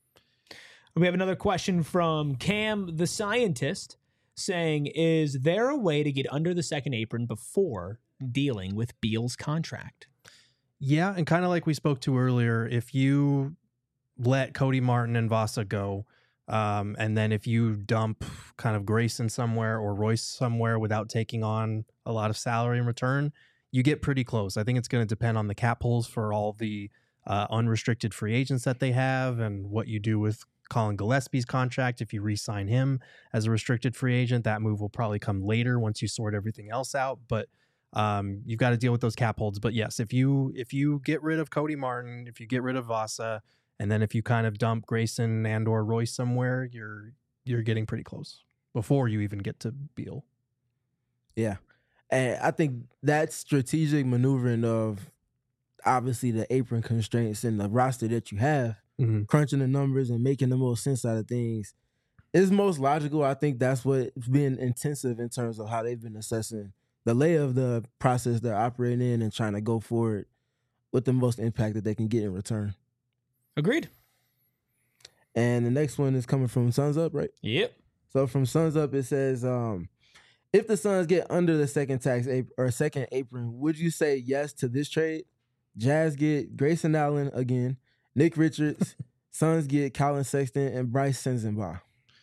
We have another question from Cam the Scientist saying, is there a way to get under the second apron before dealing with Beal's contract? Yeah, and kind of like we spoke to earlier, if you let Cody Martin and Vasa go, and then if you dump kind of Grayson somewhere or Royce somewhere without taking on a lot of salary in return, you get pretty close. I think it's going to depend on the cap holes for all the unrestricted free agents that they have and what you do with Colin Gillespie's contract. If you re-sign him as a restricted free agent, that move will probably come later once you sort everything else out. But you've got to deal with those cap holds. But yes, if you get rid of Cody Martin, if you get rid of Vasa, and then if you kind of dump Grayson and or Royce somewhere, you're getting pretty close before you even get to Beal. Yeah. And I think that strategic maneuvering of obviously the apron constraints and the roster that you have, crunching the numbers and making the most sense out of things is most logical. I think that's what's been intensive in terms of how they've been assessing the lay of the process they're operating in and trying to go forward with the most impact that they can get in return. Agreed. And the next one is coming from Suns Up, right? Yep. So from Suns Up, it says, if the Suns get under the second second apron, would you say yes to this trade? Jazz get Grayson Allen again, Nick Richards, Suns get Colin Sexton and Bryce Sensabaugh.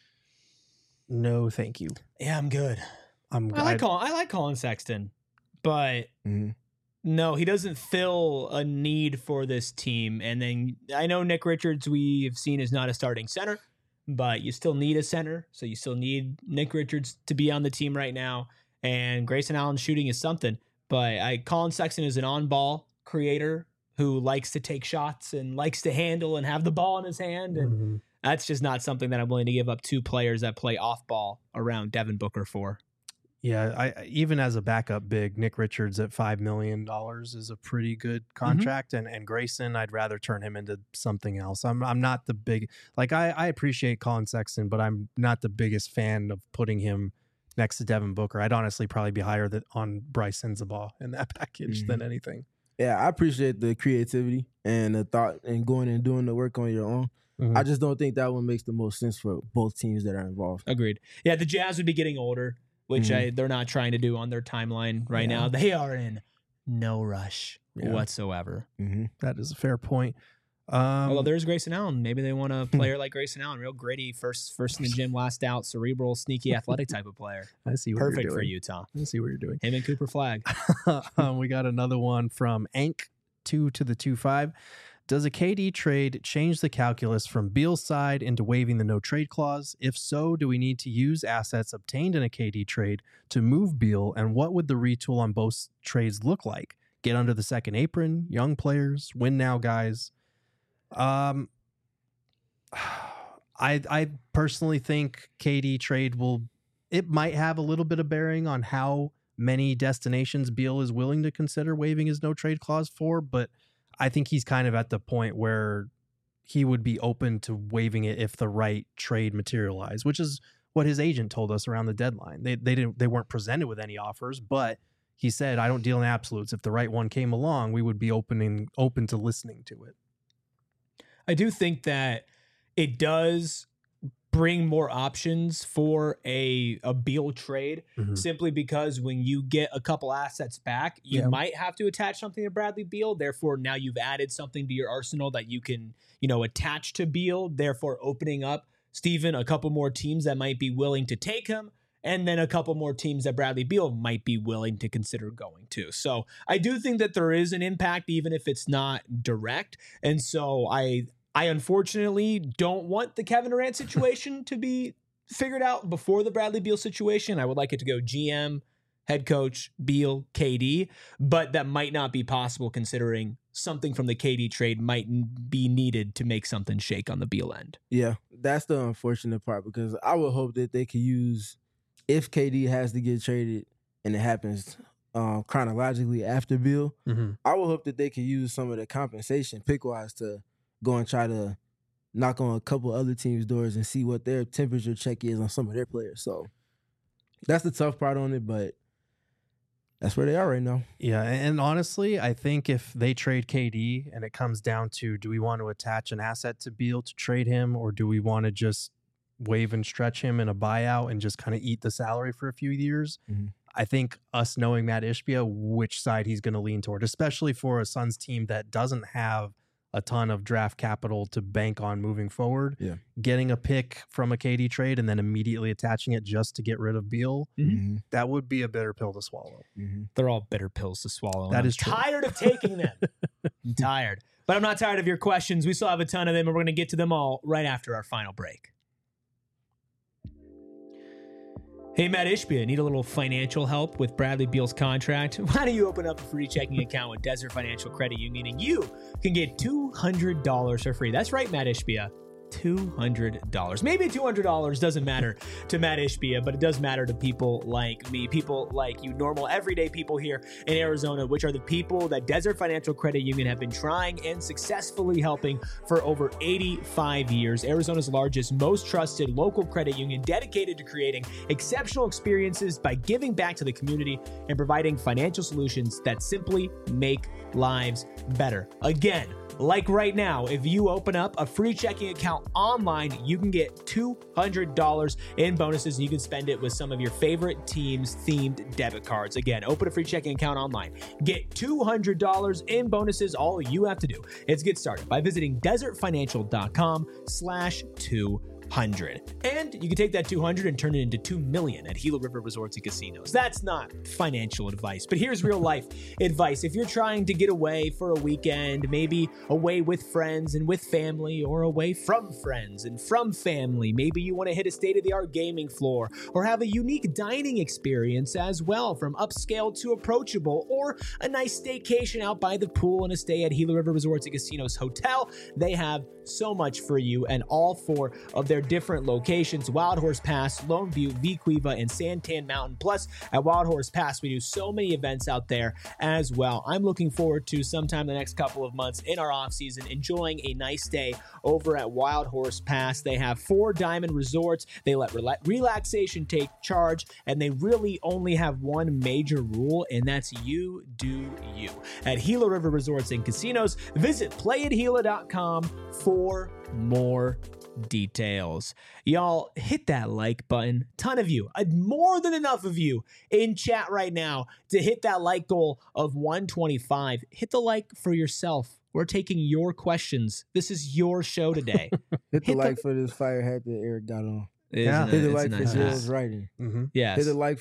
No, thank you. Yeah, I'm good. I like Colin Sexton, but no, he doesn't fill a need for this team. And then I know Nick Richards we've seen is not a starting center, but you still need a center, so you still need Nick Richards to be on the team right now. And Grayson Allen shooting is something, but Colin Sexton is an on-ball creator who likes to take shots and likes to handle and have the ball in his hand, and that's just not something that I'm willing to give up two players that play off-ball around Devin Booker for. Yeah, I even as a backup big, Nick Richards at $5 million is a pretty good contract, and Grayson, I'd rather turn him into something else. I'm not the big, like I appreciate Colin Sexton, but I'm not the biggest fan of putting him next to Devin Booker. I'd honestly probably be higher on Bryce Sensabaugh in that package than anything. Yeah, I appreciate the creativity and the thought and going and doing the work on your own. I just don't think that one makes the most sense for both teams that are involved. Agreed. Yeah, the Jazz would be getting older, which they're not trying to do on their timeline right now. They are in no rush whatsoever. That is a fair point. Although there's Grayson Allen. Maybe they want a player like Grayson Allen, real gritty, first in the gym, last out, cerebral, sneaky, athletic type of player. I see what Perfect you're doing. for Utah. I see what you're doing. Him and Cooper Flagg. We got another one from Ank 2 to the 2-5. Does a KD trade change the calculus from Beal's side into waiving the no trade clause? If so, do we need to use assets obtained in a KD trade to move Beal? And what would the retool on both trades look like? Get under the second apron, young players, win now guys. I personally think KD trade it might have a little bit of bearing on how many destinations Beal is willing to consider waiving his no trade clause for, but I think he's kind of at the point where he would be open to waiving it if the right trade materialized, which is what his agent told us around the deadline. They weren't presented with any offers, but he said, I don't deal in absolutes. If the right one came along, we would be open to listening to it. I do think that it does bring more options for a Beal trade, simply because when you get a couple assets back, you might have to attach something to Bradley Beal. Therefore, now you've added something to your arsenal that you can, attach to Beal, therefore opening up, Steven, a couple more teams that might be willing to take him, and then a couple more teams that Bradley Beal might be willing to consider going to. So I do think that there is an impact, even if it's not direct. And so I unfortunately don't want the Kevin Durant situation to be figured out before the Bradley Beal situation. I would like it to go GM, head coach, Beal, KD, but that might not be possible considering something from the KD trade might be needed to make something shake on the Beal end. Yeah, that's the unfortunate part, because I would hope that they could use, if KD has to get traded and it happens chronologically after Beal, I would hope that they could use some of the compensation pick-wise to go and try to knock on a couple other teams' doors and see what their temperature check is on some of their players. So that's the tough part on it, but that's where they are right now. Yeah, and honestly, I think if they trade KD and it comes down to, do we want to attach an asset to Beal to trade him, or do we want to just waive and stretch him in a buyout and just kind of eat the salary for a few years? I think us knowing Matt Ishbia, which side he's going to lean toward, especially for a Suns team that doesn't have a ton of draft capital to bank on moving forward. Getting a pick from a KD trade and then immediately attaching it just to get rid of Beal, that would be a bitter pill to swallow. They're all bitter pills to swallow. That is true. Tired of taking them. I'm tired. But I'm not tired of your questions. We still have a ton of them, and we're going to get to them all right after our final break. Hey, Matt Ishbia, need a little financial help with Bradley Beal's contract? Why don't you open up a free checking account with Desert Financial Credit Union, and you can get $200 for free. That's right, Matt Ishbia. $200. Maybe $200 doesn't matter to Matt Ishbia, but it does matter to people like me, people like you, normal, everyday people here in Arizona, which are the people that Desert Financial Credit Union have been trying and successfully helping for over 85 years. Arizona's largest, most trusted local credit union dedicated to creating exceptional experiences by giving back to the community and providing financial solutions that simply make lives better. Again, like right now, if you open up a free checking account online, you can get $200 in bonuses, and you can spend it with some of your favorite teams' themed debit cards. Again, open a free checking account online. Get $200 in bonuses. All you have to do is get started by visiting desertfinancial.com/200. And you can take that 200 and turn it into 2 million at Gila River Resorts and Casinos. That's not financial advice, but here's real life advice. If you're trying to get away for a weekend, maybe away with friends and with family, or away from friends and from family, maybe you want to hit a state-of-the-art gaming floor or have a unique dining experience as well, from upscale to approachable, or a nice staycation out by the pool and a stay at Gila River Resorts and Casinos Hotel. They have so much for you, and all 4 of their different locations: Wild Horse Pass, Lone View, Vicuiva, and Santan Mountain. Plus, at Wild Horse Pass, we do so many events out there as well. I'm looking forward to sometime the next couple of months in our off season enjoying a nice day over at Wild Horse Pass. They have 4 diamond resorts. They let relaxation take charge, and they really only have one major rule, and that's you do you. At Gila River Resorts and Casinos, visit playatgila.com for more details. Y'all, hit that like button. Ton of you, more than enough of you in chat right now to hit that like goal of 125. Hit the like for yourself. We're taking your questions. This is your show today. Hit the like for this fire hat that Eric got on. Yeah, hit the like for Jill's writing. Mm-hmm. Yes. Hit the like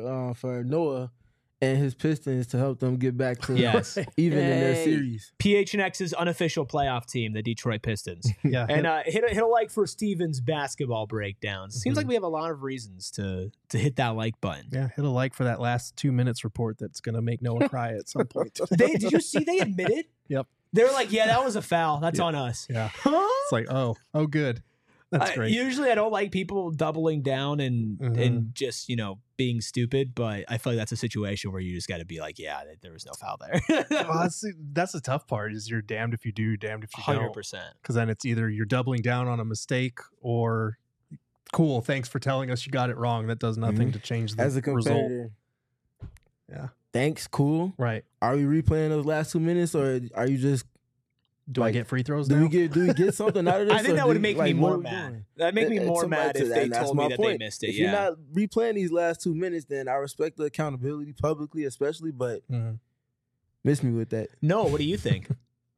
for Noah and his Pistons to help them get back to even in their series. PHNX's unofficial playoff team, the Detroit Pistons. Yeah. And hit a like for Steven's basketball breakdowns. Seems like we have a lot of reasons to hit that like button. Yeah, hit a like for that last 2 minutes report that's going to make Noah cry at some point. Did you see they admitted? Yep. They're like, yeah, that was a foul. That's on us. Yeah. It's like, oh, good. That's great. Usually I don't like people doubling down and just, being stupid, but I feel like that's a situation where you just got to be like, yeah, there was no foul there. Well, that's the tough part, is you're damned if you do, damned if you don't. 100%. Because then it's either you're doubling down on a mistake, or cool, thanks for telling us you got it wrong. That does nothing to change the As a competitor, result. Yeah. Thanks, cool. Right. Are we replaying those last 2 minutes, or are you just Do I get free throws do now? we get something out of this? I think or that do would we- make like, me what more are we mad. doing? That'd make me more Somebody mad to if that, they and that's told me my that they point. missed it. If Yeah. you're not replaying these last 2 minutes, then I respect the accountability publicly, especially, but miss me with that. No, what do you think?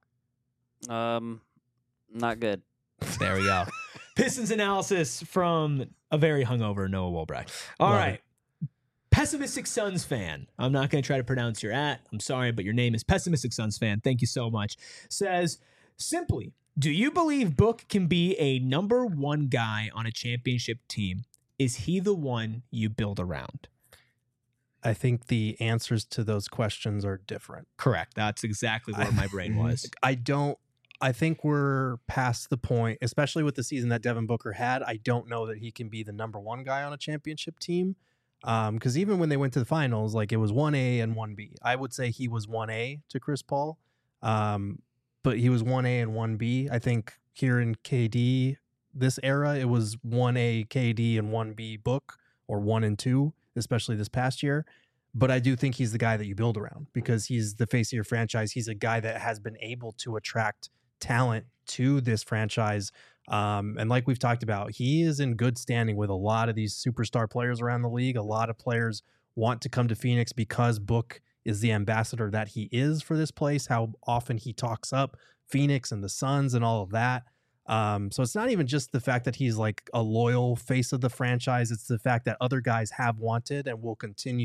Not good. There we go. Pistons analysis from a very hungover Noah Wolbrecht. All right. Pessimistic Suns fan. I'm not going to try to pronounce your at. I'm sorry, but your name is Pessimistic Suns fan. Thank you so much. Says, simply, do you believe Book can be a number 1 guy on a championship team? Is he the one you build around? I think the answers to those questions are different. Correct. That's exactly where my brain was. I think we're past the point, especially with the season that Devin Booker had. I don't know that he can be the number 1 guy on a championship team. Because even when they went to the finals, like, it was 1A and 1B. I would say he was 1A to Chris Paul, but he was 1A and 1B. I think here in KD, this era, it was 1A KD and 1B Book, or 1 and 2, especially this past year. But I do think he's the guy that you build around, because he's the face of your franchise. He's a guy that has been able to attract talent to this franchise. And like we've talked about, he is in good standing with a lot of these superstar players around the league. A lot of players want to come to Phoenix because Book is the ambassador that he is for this place, how often he talks up Phoenix and the Suns and all of that. So it's not even just the fact that he's like a loyal face of the franchise. It's the fact that other guys have wanted and will continue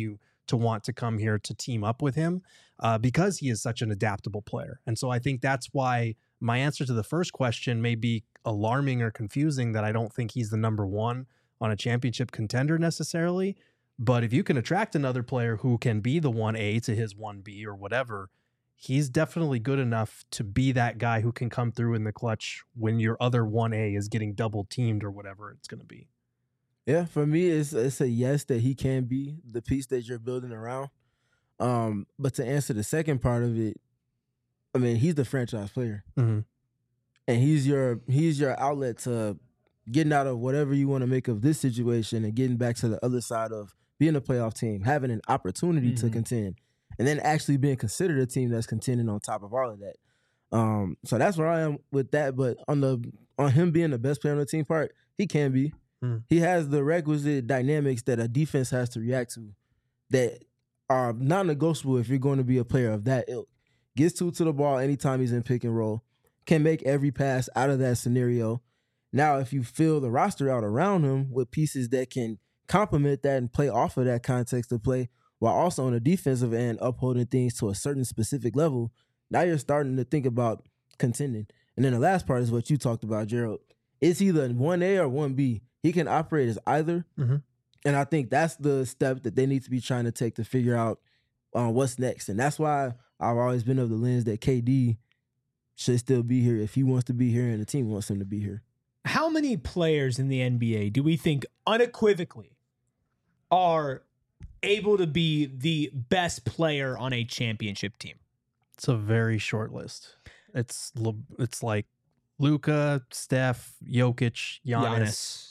to want to come here to team up with him because he is such an adaptable player. And so I think that's why my answer to the first question may be alarming or confusing, that I don't think he's the number one on a championship contender necessarily. But if you can attract another player who can be the 1A to his 1B or whatever, he's definitely good enough to be that guy who can come through in the clutch when your other 1A is getting double teamed or whatever it's going to be. Yeah, for me, it's a yes that he can be the piece that you're building around. But to answer the second part of it, I mean, he's the franchise player, Mm-hmm. and he's your outlet to getting out of whatever you want to make of this situation and getting back to the other side of being a playoff team, having an opportunity to contend, and then actually being considered a team that's contending on top of all of that. So that's where I am with that. But on him being the best player on the team part, he can be. He has the requisite dynamics that a defense has to react to that are non-negotiable if you're going to be a player of that ilk. Gets to the ball anytime he's in pick and roll, can make every pass out of that scenario. Now, if you fill the roster out around him with pieces that can complement that and play off of that context of play, while also on the defensive end upholding things to a certain specific level, now you're starting to think about contending. And then the last part is what you talked about, Gerald. It's either 1A or 1B. He can operate as either. Mm-hmm. And I think that's the step that they need to be trying to take to figure out what's next. And that's why I've always been of the lens that KD should still be here if he wants to be here and the team wants him to be here. How many players in the NBA do we think unequivocally are able to be the best player on a championship team? It's a very short list. It's like Luka, Steph, Jokic, Giannis.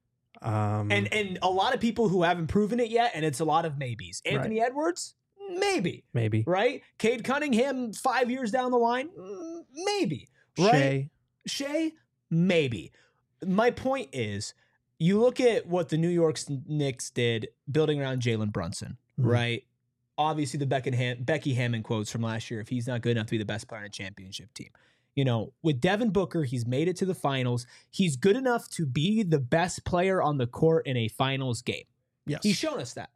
And a lot of people who haven't proven it yet, and it's a lot of maybes. Anthony Edwards, maybe. Right? Cade Cunningham 5 years down the line, maybe. Right? Shea, maybe. My point is, you look at what the New York Knicks did building around Jalen Brunson, right? Obviously, the Becky Hammond quotes from last year, if he's not good enough to be the best player on a championship team. You know, with Devin Booker, he's made it to the finals. He's good enough to be the best player on the court in a finals game. Yes. He's shown us that.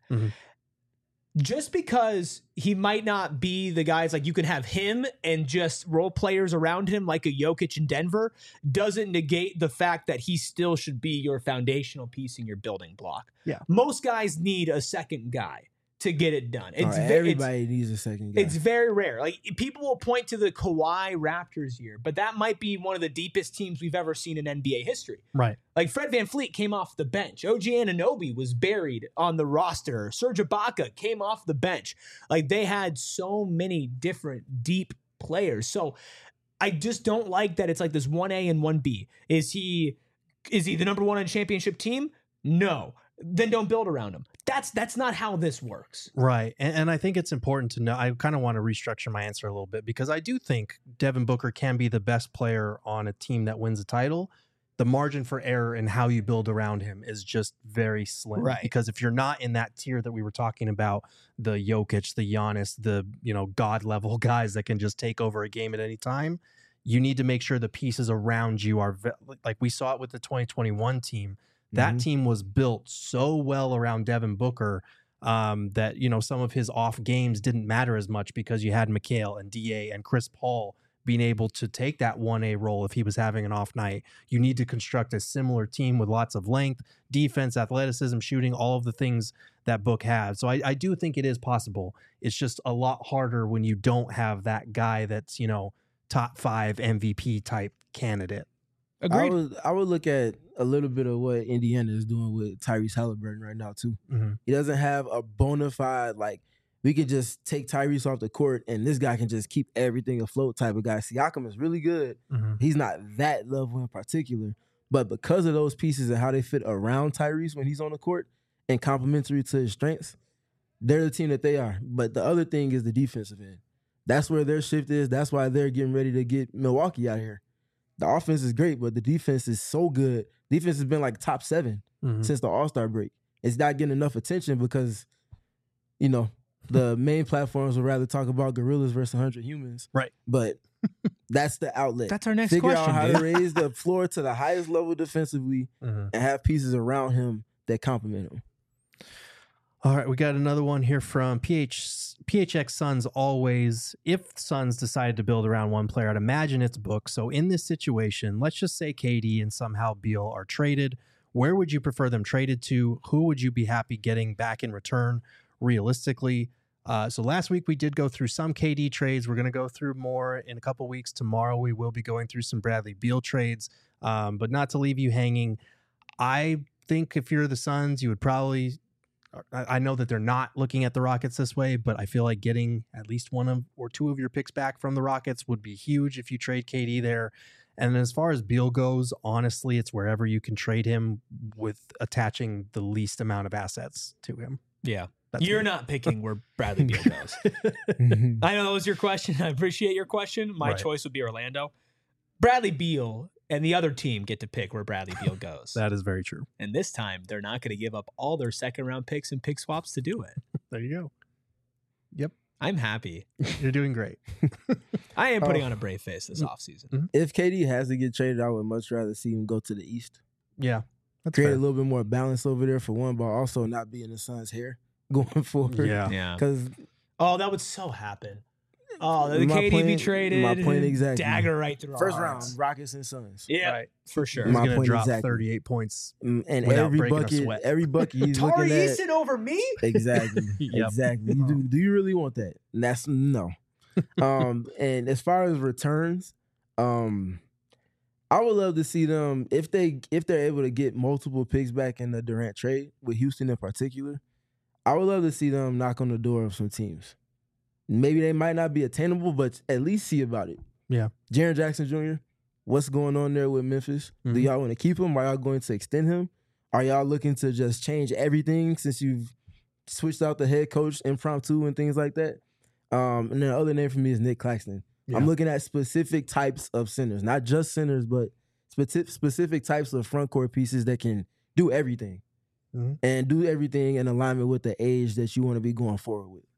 Just because he might not be the guys, like you can have him and just role players around him like a Jokic in Denver, doesn't negate the fact that he still should be your foundational piece in your building block. Yeah. Most guys need a second guy to get it done. Everybody needs a second guy. It's very rare. Like, people will point to the Kawhi Raptors year, but that might be one of the deepest teams we've ever seen in NBA history. Right. Like, Fred VanVleet came off the bench. OG Anunoby was buried on the roster. Serge Ibaka came off the bench. Like, they had so many different deep players. So I just don't like that it's like this 1A and 1B. Is he the number one on a championship team? No. Then don't build around him. That's not how this works. Right. And I think it's important to know, I kind of want to restructure my answer a little bit, because I do think Devin Booker can be the best player on a team that wins a title. The margin for error in how you build around him is just very slim. Right. Because if you're not in that tier that we were talking about, the Jokic, the Giannis, the, God level guys that can just take over a game at any time, you need to make sure the pieces around you are, like we saw it with the 2021 team. That team was built so well around Devin Booker that, some of his off games didn't matter as much because you had Mikal and DA and Chris Paul being able to take that 1A role if he was having an off night. You need to construct a similar team with lots of length, defense, athleticism, shooting, all of the things that Book has. So I do think it is possible. It's just a lot harder when you don't have that guy that's, top 5 MVP type candidate. Agreed. I would look at a little bit of what Indiana is doing with Tyrese Halliburton right now too. He doesn't have a bona fide, like, we could just take Tyrese off the court and this guy can just keep everything afloat type of guy. Siakam is really good. He's not that level in particular, but because of those pieces and how they fit around Tyrese when he's on the court and complementary to his strengths, they're the team that they are. But the other thing is the defensive end. That's where their shift is. That's why they're getting ready to get Milwaukee out of here. The offense is great, but the defense is so good. Defense has been like top 7 since the All-Star break. It's not getting enough attention because, the main platforms would rather talk about gorillas versus 100 humans. Right. But that's the outlet. That's our next Figure question. Figure out how to raise the floor to the highest level defensively and have pieces around him that complement him. All right, we got another one here from PHX Suns always. If Suns decided to build around one player, I'd imagine it's Book. So in this situation, let's just say KD and somehow Beal are traded. Where would you prefer them traded to? Who would you be happy getting back in return realistically? So last week we did go through some KD trades. We're going to go through more in a couple weeks. Tomorrow we will be going through some Bradley Beal trades, but not to leave you hanging. I think if you're the Suns, you would probably... I know that they're not looking at the Rockets this way, but I feel like getting at least one or two of your picks back from the Rockets would be huge if you trade KD there. And as far as Beal goes, honestly, it's wherever you can trade him with attaching the least amount of assets to him. Yeah. That's You're me. not picking where Bradley Beal goes. I know that was your question. I appreciate your question. My Right. choice would be Orlando. Bradley Beal and the other team get to pick where Bradley Beal goes. That is very true. And this time, they're not going to give up all their second-round picks and pick swaps to do it. There you go. Yep. I'm happy. You're doing great. I am putting on a brave face this offseason. If KD has to get traded, I would much rather see him go to the East. Yeah. That's Create fair. a little bit more balance over there for one, but also not be in the Suns' hair going forward. Yeah. Yeah. Because Oh, that would so happen. Oh, the My KD point- be traded. my point exactly. Dagger right through our first hearts. round, Rockets and Suns. Yeah, Right. for sure. He's My going to point drop exactly. 38 points. And Without every breaking a bucket, sweat. he's Tari looking at Eason over me? exactly, Yep. exactly. Do you really want that? And that's no. And as far as returns, I would love to see them if they're able to get multiple picks back in the Durant trade with Houston in particular. I would love to see them knock on the door of some teams. Maybe they might not be attainable, but at least see about it. Yeah. Jaren Jackson Jr., what's going on there with Memphis? Do Mhm. y'all want to keep him? Are y'all going to extend him? Are y'all looking to just change everything since you've switched out the head coach impromptu and things like that? And then the other name for me is Nick Claxton. Yeah. I'm looking at specific types of centers, not just centers, but specific types of front court pieces that can do everything Mhm. and do everything in alignment with the age that you want to be going forward with.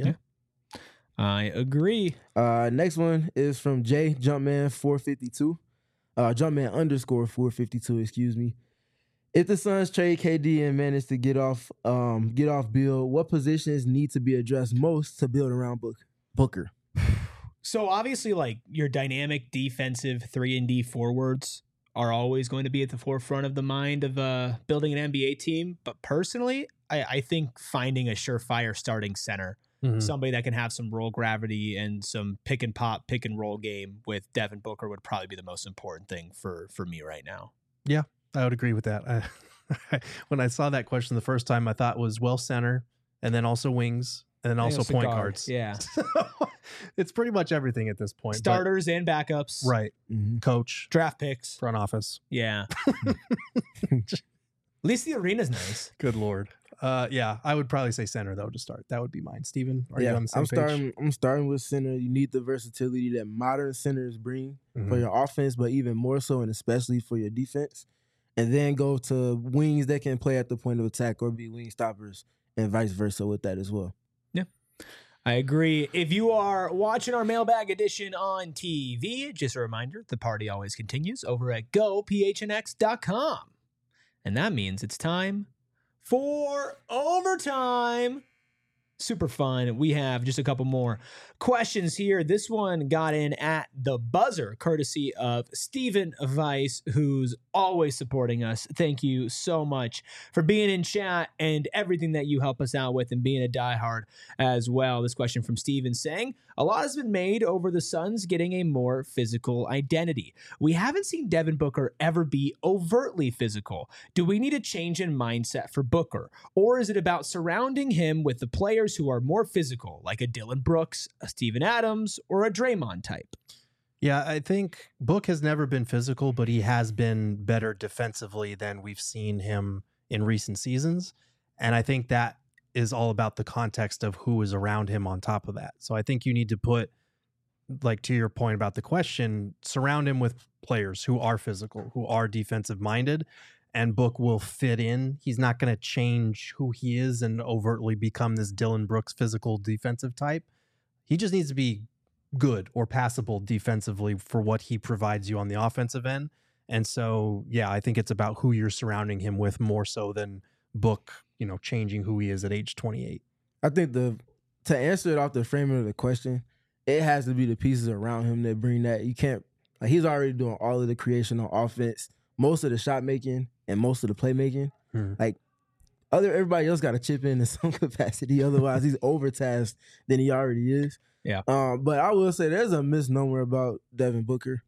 I agree. Next one is from Jay Jumpman 452. Jumpman underscore 452, excuse me. If the Suns trade KD and manage to get off Beal, what positions need to be addressed most to build around Booker? So obviously, like, your dynamic defensive 3-and-D forwards are always going to be at the forefront of the mind of building an NBA team. But personally, I think finding a surefire starting center, Mhm. somebody that can have some roll gravity and some pick and pop, pick and roll game with Devin Booker would probably be the most important thing for me right now. I would agree with that. When I saw that question the first time, I thought it was center and then also wings and then also Also point guard, guards. yeah. It's pretty much everything at this point. but- Starters and backups. right. Mm-hmm. Coach, Draft picks. front office. Yeah. At least the arena's nice. Good Lord. Yeah, I would probably say center though to start. That would be mine. Steven, are you on the same page? I'm starting with center. You need the versatility that modern centers bring for Mhm. your offense, but even more so and especially for your defense. And then go to wings that can play at the point of attack or be wing stoppers and vice versa with that as well. I agree. If you are watching our mailbag edition on TV, just a reminder, the party always continues over at gophnx.com. And that means it's time for overtime. Super fun. We have just a couple more questions here. This one got in at the buzzer, courtesy of Stephen Weiss, who's always supporting us. Thank you so much for being in chat and everything that you help us out with and being a diehard as well. This question from Stephen saying, a lot has been made over the Suns getting a more physical identity. We haven't seen Devin Booker ever be overtly physical. Do we need a change in mindset for Booker? Or is it about surrounding him with the players who are more physical, like a Dylan Brooks, a Steven Adams, or a Draymond type? Yeah, I think Book has never been physical, but he has been better defensively than we've seen him in recent seasons. And I think that is all about the context of who is around him on top of that. So I think you need to put, like, to your point about the question, surround him with players who are physical, who are defensive minded, and Book will fit in. He's not going to change who he is and overtly become this Dylan Brooks physical defensive type. He just needs to be good or passable defensively for what he provides you on the offensive end. And so, yeah, I think it's about who you're surrounding him with more so than Book, changing who he is at age 28. I think to answer it off the framing of the question, it has to be the pieces around him that bring that. You can't, he's already doing all of the creation on offense, most of the shot making and most of the playmaking. Everybody else got to chip in some capacity. Otherwise, he's overtasked than he already is. Yeah. But I will say there's a misnomer about Devin Booker.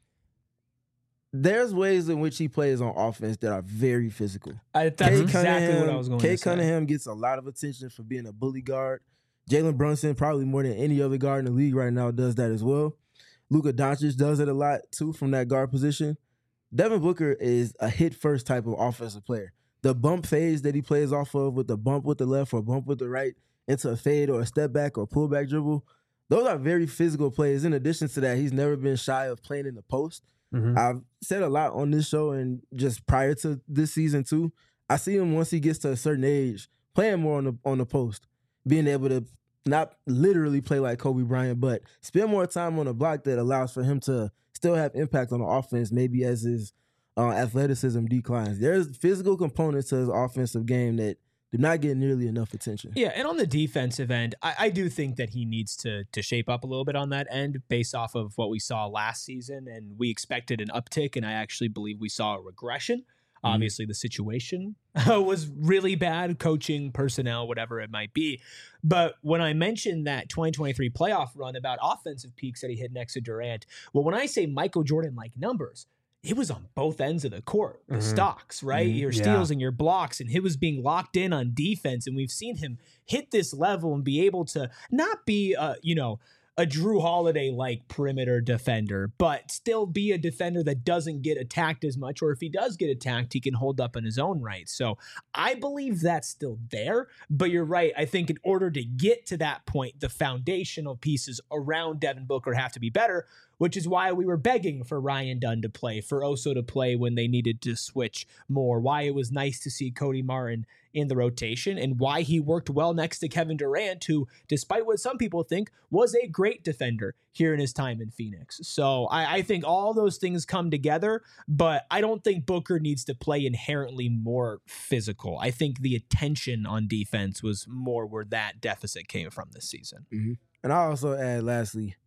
There's ways in which he plays on offense that are very physical. That's exactly what I was going to say. Cade Cunningham gets a lot of attention for being a bully guard. Jalen Brunson, probably more than any other guard in the league right now, does that as well. Luka Doncic does it a lot too from that guard position. Devin Booker is a hit-first type of offensive player. The bump phase that he plays off of with the bump with the left or bump with the right into a fade or a step back or pull back dribble, those are very physical plays. In addition to that, he's never been shy of playing in the post. I've said a lot on this show and just prior to this season too. I see him once he gets to a certain age playing more on the post, being able to not literally play like Kobe Bryant, but spend more time on the block that allows for him to still have impact on the offense, maybe as his athleticism declines. There's physical components to his offensive game that do not get nearly enough attention. Yeah, and on the defensive end, I do think that he needs to shape up a little bit on that end based off of what we saw last season, and we expected an uptick, and I actually believe we saw a regression. Obviously, the situation was really bad, coaching, personnel, whatever it might be. But when I mentioned that 2023 playoff run about offensive peaks that he hit next to Durant, well, when I say Michael Jordan-like numbers, it was on both ends of the court, the stocks, right? Your steals and your blocks, and he was being locked in on defense. And we've seen him hit this level and be able to not be, a Drew Holiday-like perimeter defender, but still be a defender that doesn't get attacked as much, or if he does get attacked, he can hold up in his own right. So I believe that's still there, but you're right. I think in order to get to that point, the foundational pieces around Devin Booker have to be better, which is why we were begging for Ryan Dunn to play, for Oso to play when they needed to switch more, why it was nice to see Cody Martin in the rotation, and why he worked well next to Kevin Durant, who, despite what some people think, was a great defender here in his time in Phoenix. So I think all those things come together, but I don't think Booker needs to play inherently more physical. I think the attention on defense was more where that deficit came from this season. And I also add, lastly,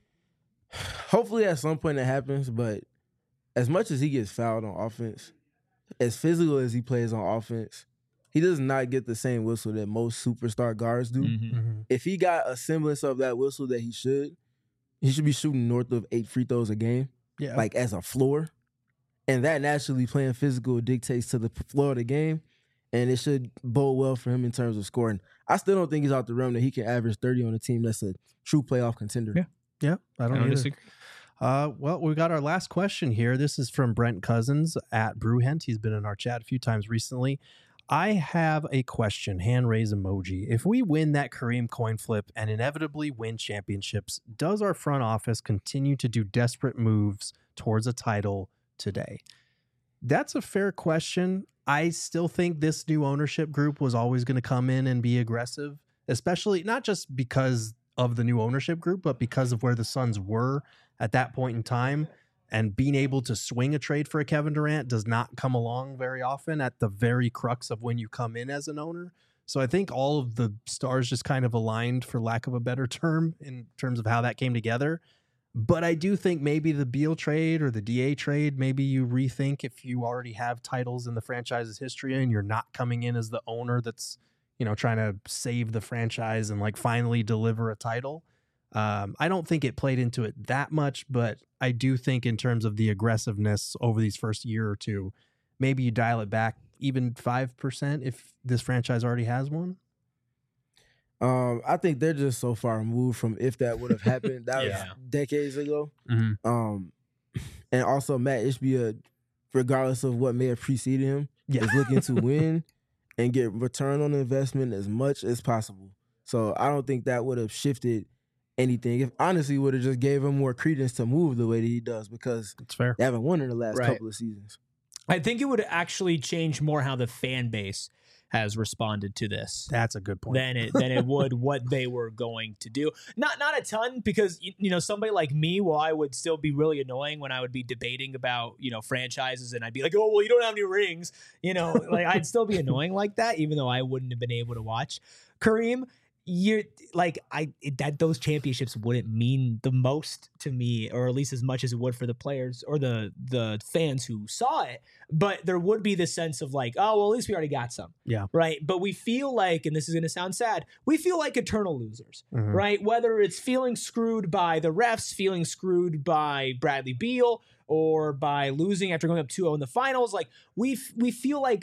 hopefully at some point it happens, but as much as he gets fouled on offense, as physical as he plays on offense, he does not get the same whistle that most superstar guards do. If he got a semblance of that whistle that he should be shooting north of 8 free throws a game, like as a floor. And that naturally playing physical dictates to the floor of the game, and it should bode well for him in terms of scoring. I still don't think he's out the realm that he can average 30 on a team that's a true playoff contender. Yeah, I don't disagree. Well, we got our last question here. This is from Brent Cousins at Brewhent. He's been in our chat a few times recently. I have a question, hand raise emoji. If we win that Kareem coin flip and inevitably win championships, does our front office continue to do desperate moves towards a title today? That's a fair question. I still think this new ownership group was always going to come in and be aggressive, especially not just because of the new ownership group, but because of where the Suns were at that point in time. And being able to swing a trade for a Kevin Durant does not come along very often at the very crux of when you come in as an owner. So I think all of the stars just kind of aligned, for lack of a better term, in terms of how that came together. But I do think maybe the Beal trade or the DA trade, maybe you rethink if you already have titles in the franchise's history and you're not coming in as the owner that's, trying to save the franchise and like finally deliver a title. I don't think it played into it that much, but I do think in terms of the aggressiveness over these first year or two, maybe you dial it back even 5% if this franchise already has one. I think they're just so far removed from if that would have happened. That was decades ago. And also Matt Ishbia, regardless of what may have preceded him, is looking to win and get return on investment as much as possible. So I don't think that would have shifted anything. If honestly would have just gave him more credence to move the way that he does, because it's fair. They haven't won in the last couple of seasons. I think it would actually change more how the fan base has responded to this That's a good point. than it would what they were going to do. Not a ton, because somebody like me, well, I would still be really annoying when I would be debating about franchises, and I'd be like, oh well, you don't have any rings, like I'd still be annoying like that, even though I wouldn't have been able to watch. Kareem, you're like those championships wouldn't mean the most to me, or at least as much as it would for the players or the fans who saw it. But there would be this sense of like, oh, well, at least we already got some. Yeah. Right. But we feel like, and this is going to sound sad, we feel like eternal losers, right? Whether it's feeling screwed by the refs, feeling screwed by Bradley Beal, or by losing after going up 2-0 in the finals, like we feel like,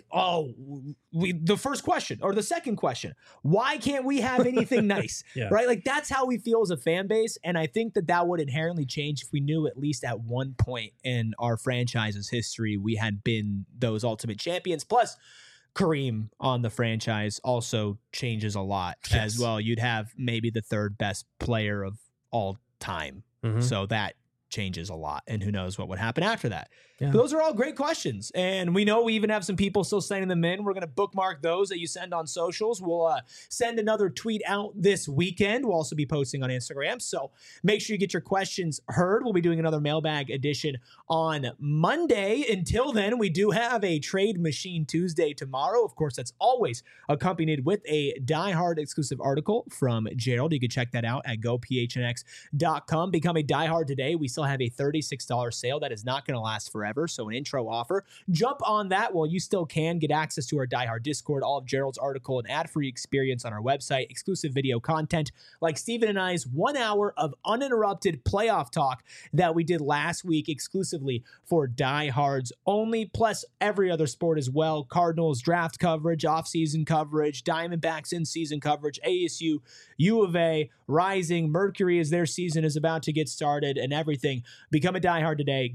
the first question or the second question, why can't we have anything nice? Yeah. Right? Like that's how we feel as a fan base. And I think that would inherently change if we knew at least at one point in our franchise's history, we had been those ultimate champions. Plus, Kareem on the franchise also changes a lot as well. You'd have maybe the third best player of all time. So that changes a lot, and who knows what would happen after that. Yeah. Those are all great questions, and we know we even have some people still sending them in. We're going to bookmark those that you send on socials. We'll send another tweet out this weekend. We'll also be posting on Instagram, so make sure you get your questions heard. We'll be doing another mailbag edition on Monday. Until then, we do have a Trade Machine Tuesday tomorrow. Of course, that's always accompanied with a Die Hard exclusive article from Gerald. You can check that out at gophnx.com. Become a Die Hard today. We still have a $36 sale that is not going to last forever. So an intro offer. Jump on that while you still can. Get access to our Die Hard Discord, all of Gerald's article, and ad-free experience on our website, exclusive video content like Steven and I's 1 hour of uninterrupted playoff talk that we did last week exclusively for Die Hards only, plus every other sport as well. Cardinals draft coverage, offseason coverage, Diamondbacks in-season coverage, ASU, U of A, Rising, Mercury as their season is about to get started, and everything. Become a Die Hard today.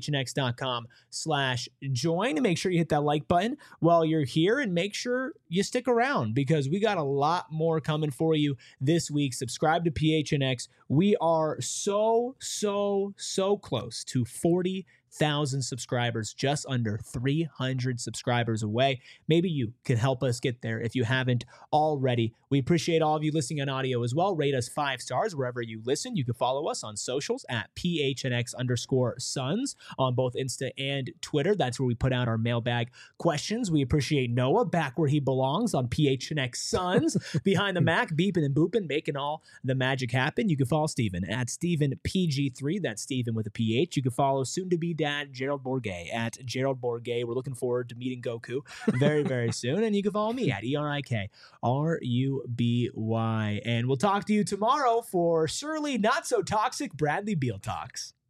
gophnx.com/join, and make sure you hit that like button while you're here, and make sure you stick around because we got a lot more coming for you this week. Subscribe to PHNX. We are so close to 40,000 subscribers, just under 300 subscribers away. Maybe you can help us get there if you haven't already. We appreciate all of you listening on audio as well. Rate us 5 stars wherever you listen. You can follow us on socials at PHNX_Suns on both Insta and Twitter. That's where we put out our mailbag questions. We appreciate Noah back where he belongs on PHNX Suns behind the Mac, beeping and booping, making all the magic happen. You can follow Steven at StevenPG3. That's Steven with a PH. You can follow soon-to-be dad Gerald Bourguet at Gerald Bourguet. We're looking forward to meeting Goku very, very soon. And you can follow me at ERIKRUBY. And we'll talk to you tomorrow for surely not so toxic Bradley Beal talks.